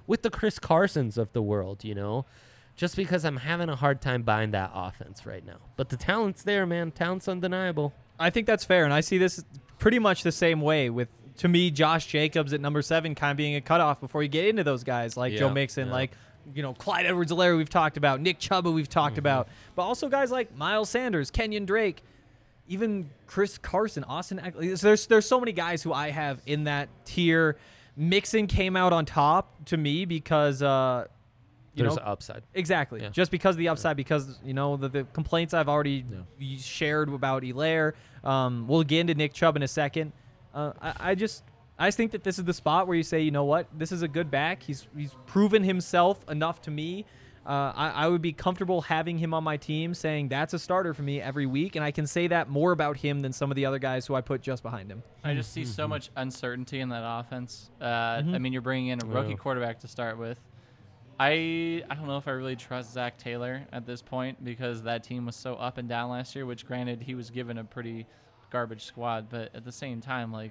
with the Chris Carsons of the world, you know, just because I'm having a hard time buying that offense right now. But the talent's there, man. Talent's undeniable. I think that's fair, and I see this pretty much the same way with, to me, Josh Jacobs at number seven kind of being a cutoff before you get into those guys like Yeah, Joe Mixon, yeah. like, you know, Clyde Edwards-Helaire we've talked about, Nick Chuba we've talked Mm-hmm. about, but also guys like Miles Sanders, Kenyon Drake, even Chris Carson, Austin Eckler. There's, there's so many guys who I have in that tier. Mixon came out on top to me because, uh, you There's know, upside. exactly. Yeah. Just because of the upside, because, you know, the, the complaints I've already Yeah. shared about Helaire. Um, we'll get into Nick Chubb in a second. Uh, I, I just I just think that this is the spot where you say, you know what, this is a good back. He's he's proven himself enough to me. Uh, I, I would be comfortable having him on my team, saying that's a starter for me every week, and I can say that more about him than some of the other guys who I put just behind him. I just see so much uncertainty in that offense. Uh, Mhm. I mean, you're bringing in a rookie Yeah. quarterback to start with. I I don't know if I really trust Zach Taylor at this point because that team was so up and down last year, which granted he was given a pretty garbage squad, but at the same time, like,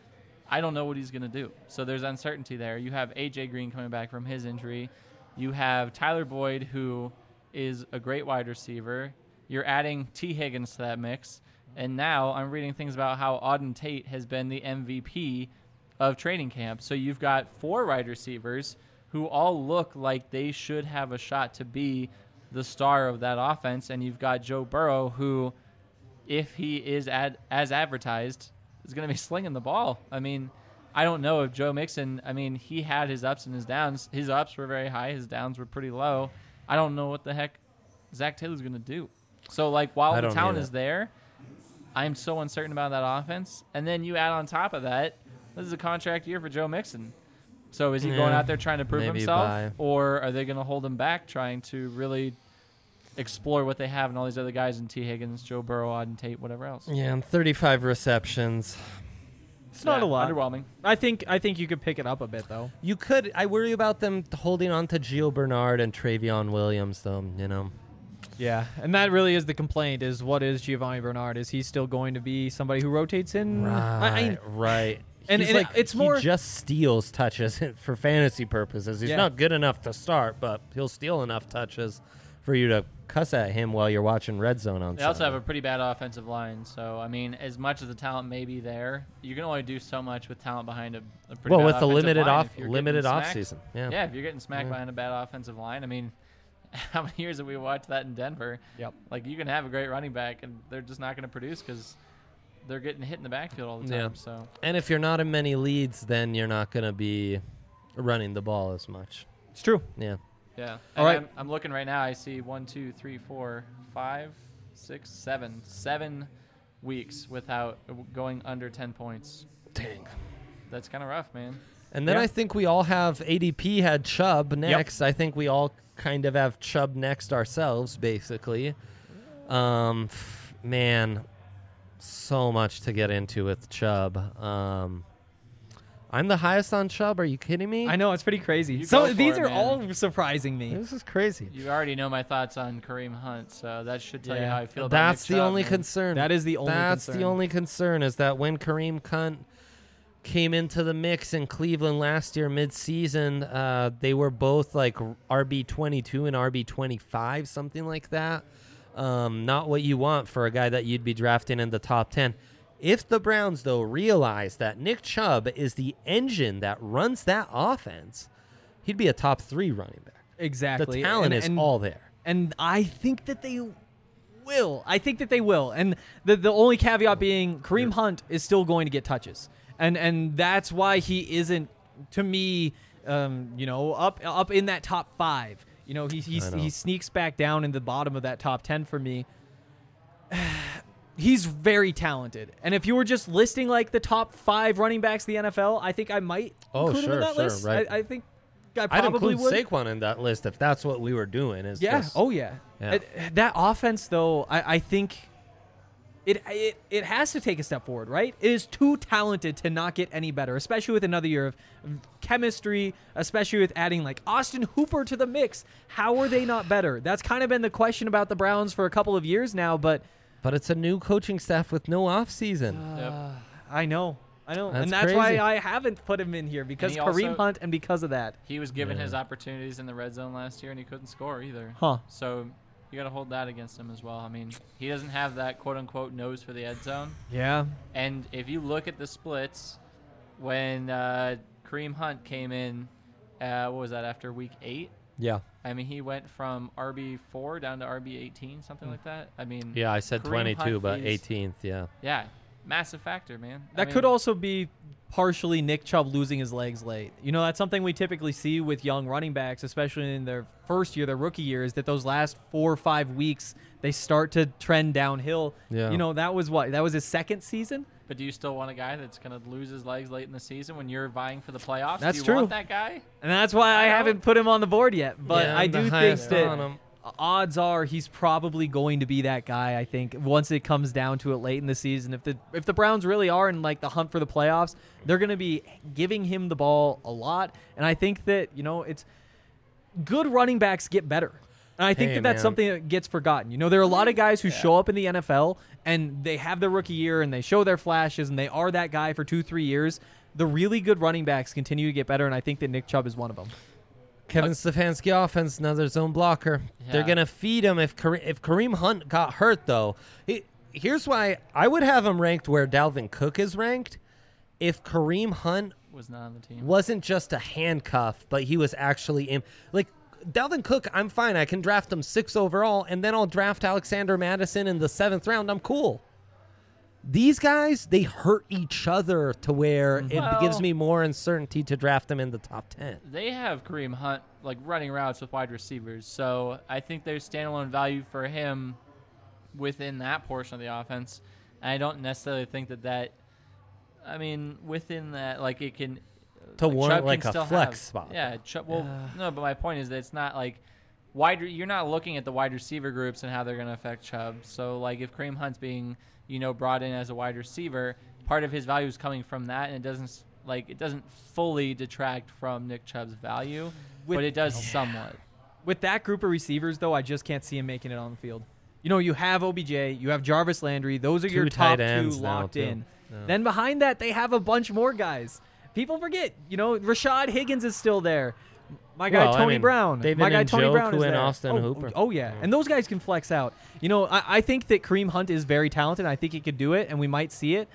I don't know what he's going to do. So there's uncertainty there. You have A J Green coming back from his injury. You have Tyler Boyd, who is a great wide receiver. You're adding T. Higgins to that mix. And now I'm reading things about how Auden Tate has been the M V P of training camp. So you've got four wide receivers who all look like they should have a shot to be the star of that offense. And you've got Joe Burrow, who, if he is ad- as advertised, is going to be slinging the ball. I mean, I don't know if Joe Mixon, I mean, he had his ups and his downs. His ups were very high. His downs were pretty low. I don't know what the heck Zach Taylor's going to do. So, like, while I the don't talent either. is there, I'm so uncertain about that offense. And then you add on top of that, this is a contract year for Joe Mixon. So is he going Yeah, out there trying to prove maybe himself? buy. Or are they going to hold him back trying to really explore what they have and all these other guys in T. Higgins, Joe Burrow, Auden Tate, whatever else? Yeah, and thirty-five receptions. It's not Yeah, a lot. Underwhelming. I think I think you could pick it up a bit, though. You could. I worry about them holding on to Gio Bernard and Travion Williams, though, you know. Yeah, and that really is the complaint, is what is Giovanni Bernard? Is he still going to be somebody who rotates in? I- I- Right, right. And- He's and like, it's more- he just steals touches for fantasy purposes. He's Yeah. not good enough to start, but he'll steal enough touches for you to cuss at him while you're watching Red Zone on They also have Sunday. a pretty bad offensive line. So, I mean, as much as the talent may be there, you can only do so much with talent behind a, a pretty Well, bad with the offensive limited line. off If you're limited getting off smacked- season. Yeah. Yeah, if you're getting smacked Yeah. behind a bad offensive line, I mean, how many years have we watched that in Denver? Yep. Like, you can have a great running back, and they're just not going to produce because they're getting hit in the backfield all the time. Yeah. So, And if you're not in many leads, then you're not going to be running the ball as much. It's true. Yeah. yeah. All And right. I'm, I'm looking right now. I see one, two, three, four, five, six, seven, seven weeks without going under ten points. Dang. That's kind of rough, man. And then Yeah. I think we all have A D P had Chubb next. I think we all kind of have Chubb next ourselves, basically. Um, f- man, so much to get into with Chubb. Um, I'm the highest on Chubb. Are you kidding me? I know, it's pretty crazy. You So go for these it, are man. all surprising me. This is crazy. You already know my thoughts on Kareem Hunt, so that should tell you Yeah. how I feel about That's Nick the Chubb, only man. concern. That is the only That's concern. the only concern is that when Kareem Hunt came into the mix in Cleveland last year mid-season, uh, they were both like R B twenty-two and R B twenty-five, something like that. Um, not what you want for a guy that you'd be drafting in the top ten. If the Browns, though, realize that Nick Chubb is the engine that runs that offense, he'd be a top three running back. Exactly. The talent And- is and- all there. And I think that they will. I think that they will. And the the only caveat being Kareem Hunt is still going to get touches. And and that's why he isn't, to me, um, you know, up up in that top five. You know, he he's, I know. he sneaks back down in the bottom of that top ten for me. He's very talented. And if you were just listing like the top five running backs in the N F L, I think I might Oh, include him in sure, that sure, list. right. I, I think I I'd probably include would. Saquon in that list if that's what we were doing. Is Yeah. just- Oh yeah. Yeah. It- that offense, though, I, I think it, it it has to take a step forward. Right? It is too talented to not get any better, especially with another year of chemistry. Especially with adding like Austin Hooper to the mix. How are they not better? That's kind of been the question about the Browns for a couple of years now. But But it's a new coaching staff with no offseason. uh, Yep. I know. I know, That's and that's crazy. why I haven't put him in here because he Kareem also- Hunt and because of that. He was given Yeah. his opportunities in the red zone last year, and he couldn't score either. Huh. So you got to hold that against him as well. I mean, he doesn't have that quote-unquote nose for the end zone. Yeah. And if you look at the splits, when uh, Kareem Hunt came in, uh, what was that, after week eight? Yeah. I mean, he went from R B four down to R B eighteen, something like that. I mean, Yeah, I said Kareem twenty-two, Hunt but is- eighteenth, yeah. yeah, massive factor, man. I That mean, could also be partially Nick Chubb losing his legs late. You know, that's something we typically see with young running backs, especially in their first year, their rookie year, is that those last four or five weeks, they start to trend downhill. Yeah. You know, that was what? That was his second season? But do you still want a guy that's going to lose his legs late in the season when you're vying for the playoffs? That's do you true. want that guy? And that's why I I know. haven't put him on the board yet. But Yeah, I I'm the do think highest that on him. odds are he's probably going to be that guy, I think, once it comes down to it late in the season. If the if the Browns really are in like the hunt for the playoffs, they're going to be giving him the ball a lot. And I think that, you know, it's good running backs get better. And I think Hey, that that's man. something that gets forgotten. You know, there are a lot of guys who show up in the N F L and they have their rookie year and they show their flashes and they are that guy for two, three years. The really good running backs continue to get better, and I think that Nick Chubb is one of them. Kevin Stefanski offense, another zone blocker. They're Yeah. gonna feed him if Kare- if Kareem Hunt got hurt though. It, here's why I would have him ranked where Dalvin Cook is ranked. If Kareem Hunt Was not on the team. wasn't just a handcuff, but he was actually in like Dalvin Cook, I'm fine. I can draft him six overall, and then I'll draft Alexander Madison in the seventh round. I'm cool. These guys, they hurt each other to where it Well- gives me more uncertainty to draft them in the top ten. They have Kareem Hunt like running routes with wide receivers, so I think there's standalone value for him within that portion of the offense. And I don't necessarily think that that. I mean, within that, like it can To like, warrant Chubb like can a still flex have- spot. Yeah, Chubb, well, Yeah. no, but my point is that it's not like wide. You're not looking at the wide receiver groups and how they're going to affect Chubb. So like if Kareem Hunt's being you know brought in as a wide receiver, part of his value is coming from that, and it doesn't like it doesn't fully detract from Nick Chubb's value, With- but it does somewhat. With that group of receivers, though, I just can't see him making it on the field. You know, you have O B J, you have Jarvis Landry. Those are Two your tight top two ends now, locked too. in. Yeah. Then behind that, they have a bunch more guys. People forget, you know, Rashad Higgins is still there. My guy Well, I Tony mean, Brown. David My guy Tony Njoku Brown is and there. Austin oh, Hooper. Oh, yeah. And those guys can flex out. You know, I, I think that Kareem Hunt is very talented. I think he could do it, and we might see it.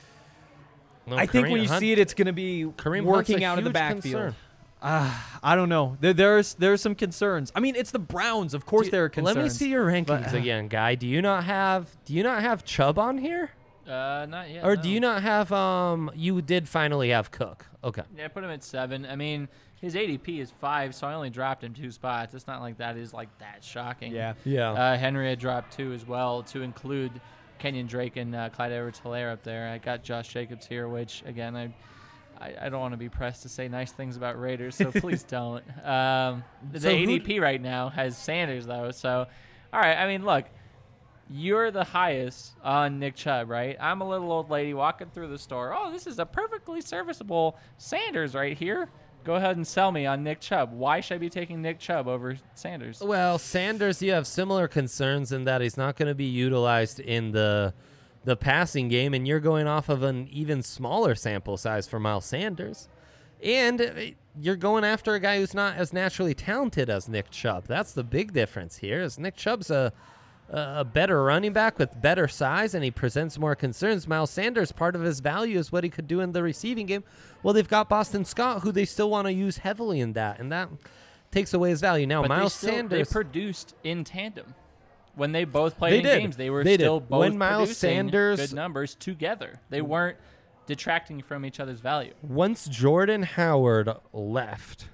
No, I think when Kareem you Hunt- see it, it's going to be Kareem working Hunt's a out of the huge backfield. concern. Uh, I don't know. There, there's there's some concerns. I mean, it's the Browns. Of course, Do- there are concerns. Let me see your rankings But, uh, again, guy. Do you not have Do you not have Chubb on here, Uh, not yet. or no. do you not have? Um, you did finally have Cook. Okay. Yeah, I put him at seven. I mean, his A D P is five, so I only dropped him two spots. It's not like that is like that shocking. Yeah. Yeah. Uh, Henry had dropped two as well to include Kenyon Drake and uh, Clyde Edwards-Helaire up there. I got Josh Jacobs here, which again I. I, I don't want to be pressed to say nice things about Raiders, so please don't. Um, the So who A D d- P right now has Sanders though, so all right. I mean, look, you're the highest on Nick Chubb, right? I'm a little old lady walking through the store. Oh, this is a perfectly serviceable Sanders right here. Go ahead and sell me on Nick Chubb. Why should I be taking Nick Chubb over Sanders? Well, Sanders, you have similar concerns in that he's not going to be utilized in the the passing game, and you're going off of an even smaller sample size for Miles Sanders. And uh, you're going after a guy who's not as naturally talented as Nick Chubb. That's the big difference here. Is Nick Chubb's a a better running back with better size, and he presents more concerns. Miles Sanders, part of his value is what he could do in the receiving game. Well, they've got Boston Scott, who they still want to use heavily in that, and that takes away his value. Now, But Miles they still, Sanders... they produced in tandem. When they both played They in did. games, they were They still did. both When Miles producing Sanders- good numbers together. They weren't detracting from each other's value. Once Jordan Howard left,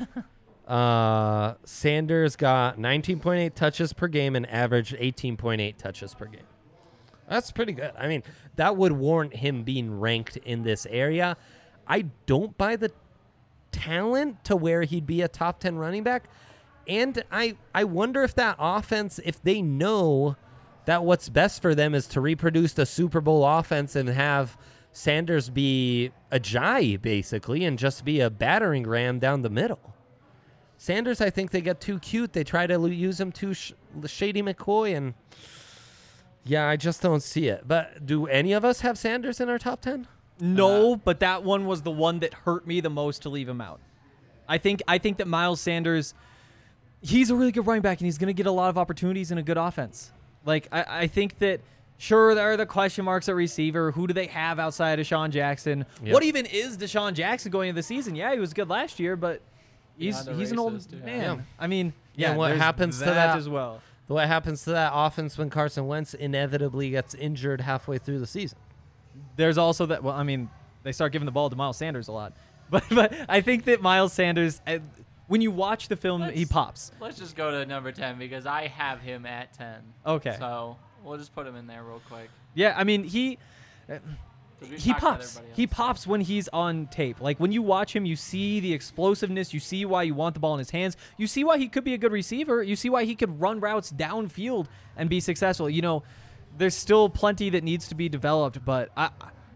uh, Sanders got nineteen point eight touches per game and averaged eighteen point eight touches per game. That's pretty good. I mean, that would warrant him being ranked in this area. I don't buy the talent to where he'd be a top ten running back. And I, I wonder if that offense, if they know that what's best for them is to reproduce the Super Bowl offense and have Sanders be a Ajayi, basically, and just be a battering ram down the middle. Sanders, I think they get too cute. They try to l- use him too sh- Shady McCoy, and yeah, I just don't see it. But do any of us have Sanders in our top ten? No, Uh, but that one was the one that hurt me the most to leave him out. I think I think that Miles Sanders, he's a really good running back, and he's going to get a lot of opportunities in a good offense. Like, I, I think that, sure, there are the question marks at receiver. Who do they have outside of Deshaun Jackson? Yep. What even is Deshaun Jackson going into the season? Yeah, he was good last year, but he's Beyond the he's an old races, too. man. Yeah. I mean, Yeah, yeah, what there's happens to that, that- as well? What happens to that offense when Carson Wentz inevitably gets injured halfway through the season? There's also that. Well, I mean, they start giving the ball to Miles Sanders a lot, but but I think that Miles Sanders, uh, when you watch the film, he Let's- pops. Let's just go to number ten because I have him at ten. Okay. So we'll just put him in there real quick. Yeah, I mean he. 'Cause we've He talked about pops. everybody He else. pops when he's on tape. Like when you watch him, you see the explosiveness. You see why you want the ball in his hands. You see why he could be a good receiver. You see why he could run routes downfield and be successful. You know, there's still plenty that needs to be developed, but I,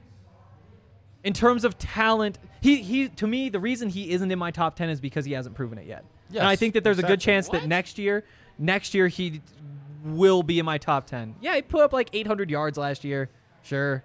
in terms of talent, he he to me the reason he isn't in my top ten is because he hasn't proven it yet. Yes, and I think that there's a good exactly. chance that What? next year, next year he will be in my top ten. Yeah, he put up like eight hundred yards last year. Sure.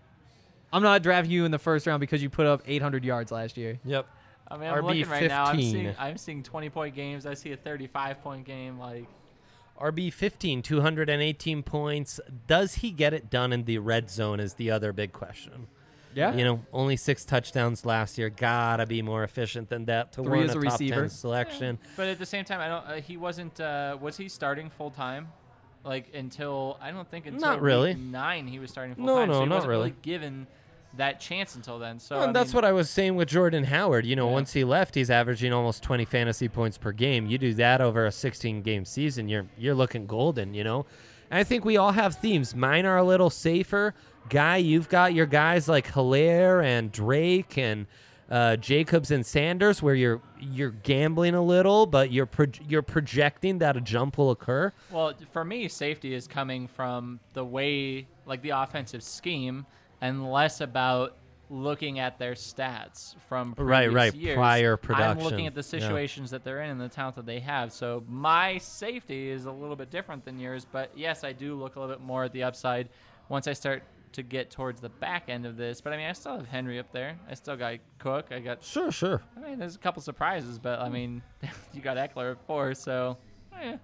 I'm not drafting you in the first round because you put up eight hundred yards last year. Yep. I mean, I'm R B looking right now. I'm fifteen. seeing I'm seeing twenty point games. I see a thirty-five point game. Like, R B fifteen, two hundred eighteen points. Does he get it done in the red zone is the other big question. Yeah. You know, only six touchdowns last year. Gotta be more efficient than that to Three warrant as a a top receiver. ten selection. but at the same time, I don't. Uh, he wasn't. Uh, was he starting full time? Like until I don't think until Not really. week nine he was starting full No, time. no, so he not wasn't really. given that chance until then. So Well, and I that's mean, what I was saying with Jordan Howard. You know, Yeah. once he left, he's averaging almost twenty fantasy points per game. You do that over a sixteen game season, you're you're looking golden, you know? And I think we all have themes. Mine are a little safer. Guy, you've got your guys like Hilaire and Drake and uh, Jacobs and Sanders where you're you're gambling a little, but you're pro- you're projecting that a jump will occur. Well, for me, safety is coming from the way, like the offensive scheme, and less about looking at their stats from previous Right, right, years. prior I'm production. looking at the Yeah. situations that they're in and the talent that they have. So my safety is a little bit different than yours, but yes, I do look a little bit more at the upside once I start to get towards the back end of this. But I mean, I still have Henry up there. I still got Cook. I got. Sure, sure. I mean, there's a couple surprises, but I mean, you got Eckler at four, so. Eh.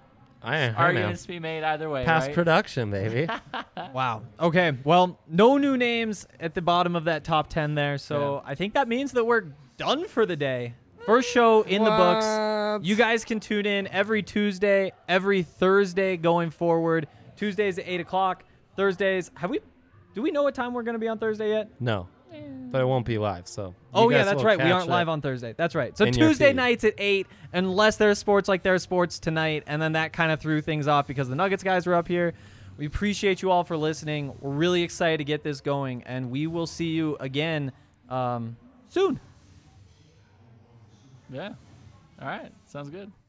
I, I know. Arguments to be made either way, Past right? production, baby. Wow. Okay. Well, no new names at the bottom of that top ten there. So I think that means that we're done for the day. First show in the books. What? You guys can tune in every Tuesday, every Thursday going forward. Tuesdays at eight o'clock. Thursdays. Have we? Do we know what time we're going to be on Thursday yet? No, but it won't be live. So. you Oh yeah, guys that's will right. We catch aren't it. live on Thursday. That's right. So in your Tuesday feed. nights at eight, unless there's sports like there's sports tonight, and then that kind of threw things off because the Nuggets guys were up here. We appreciate you all for listening. We're really excited to get this going, and we will see you again um, soon. Yeah. All right. Sounds good.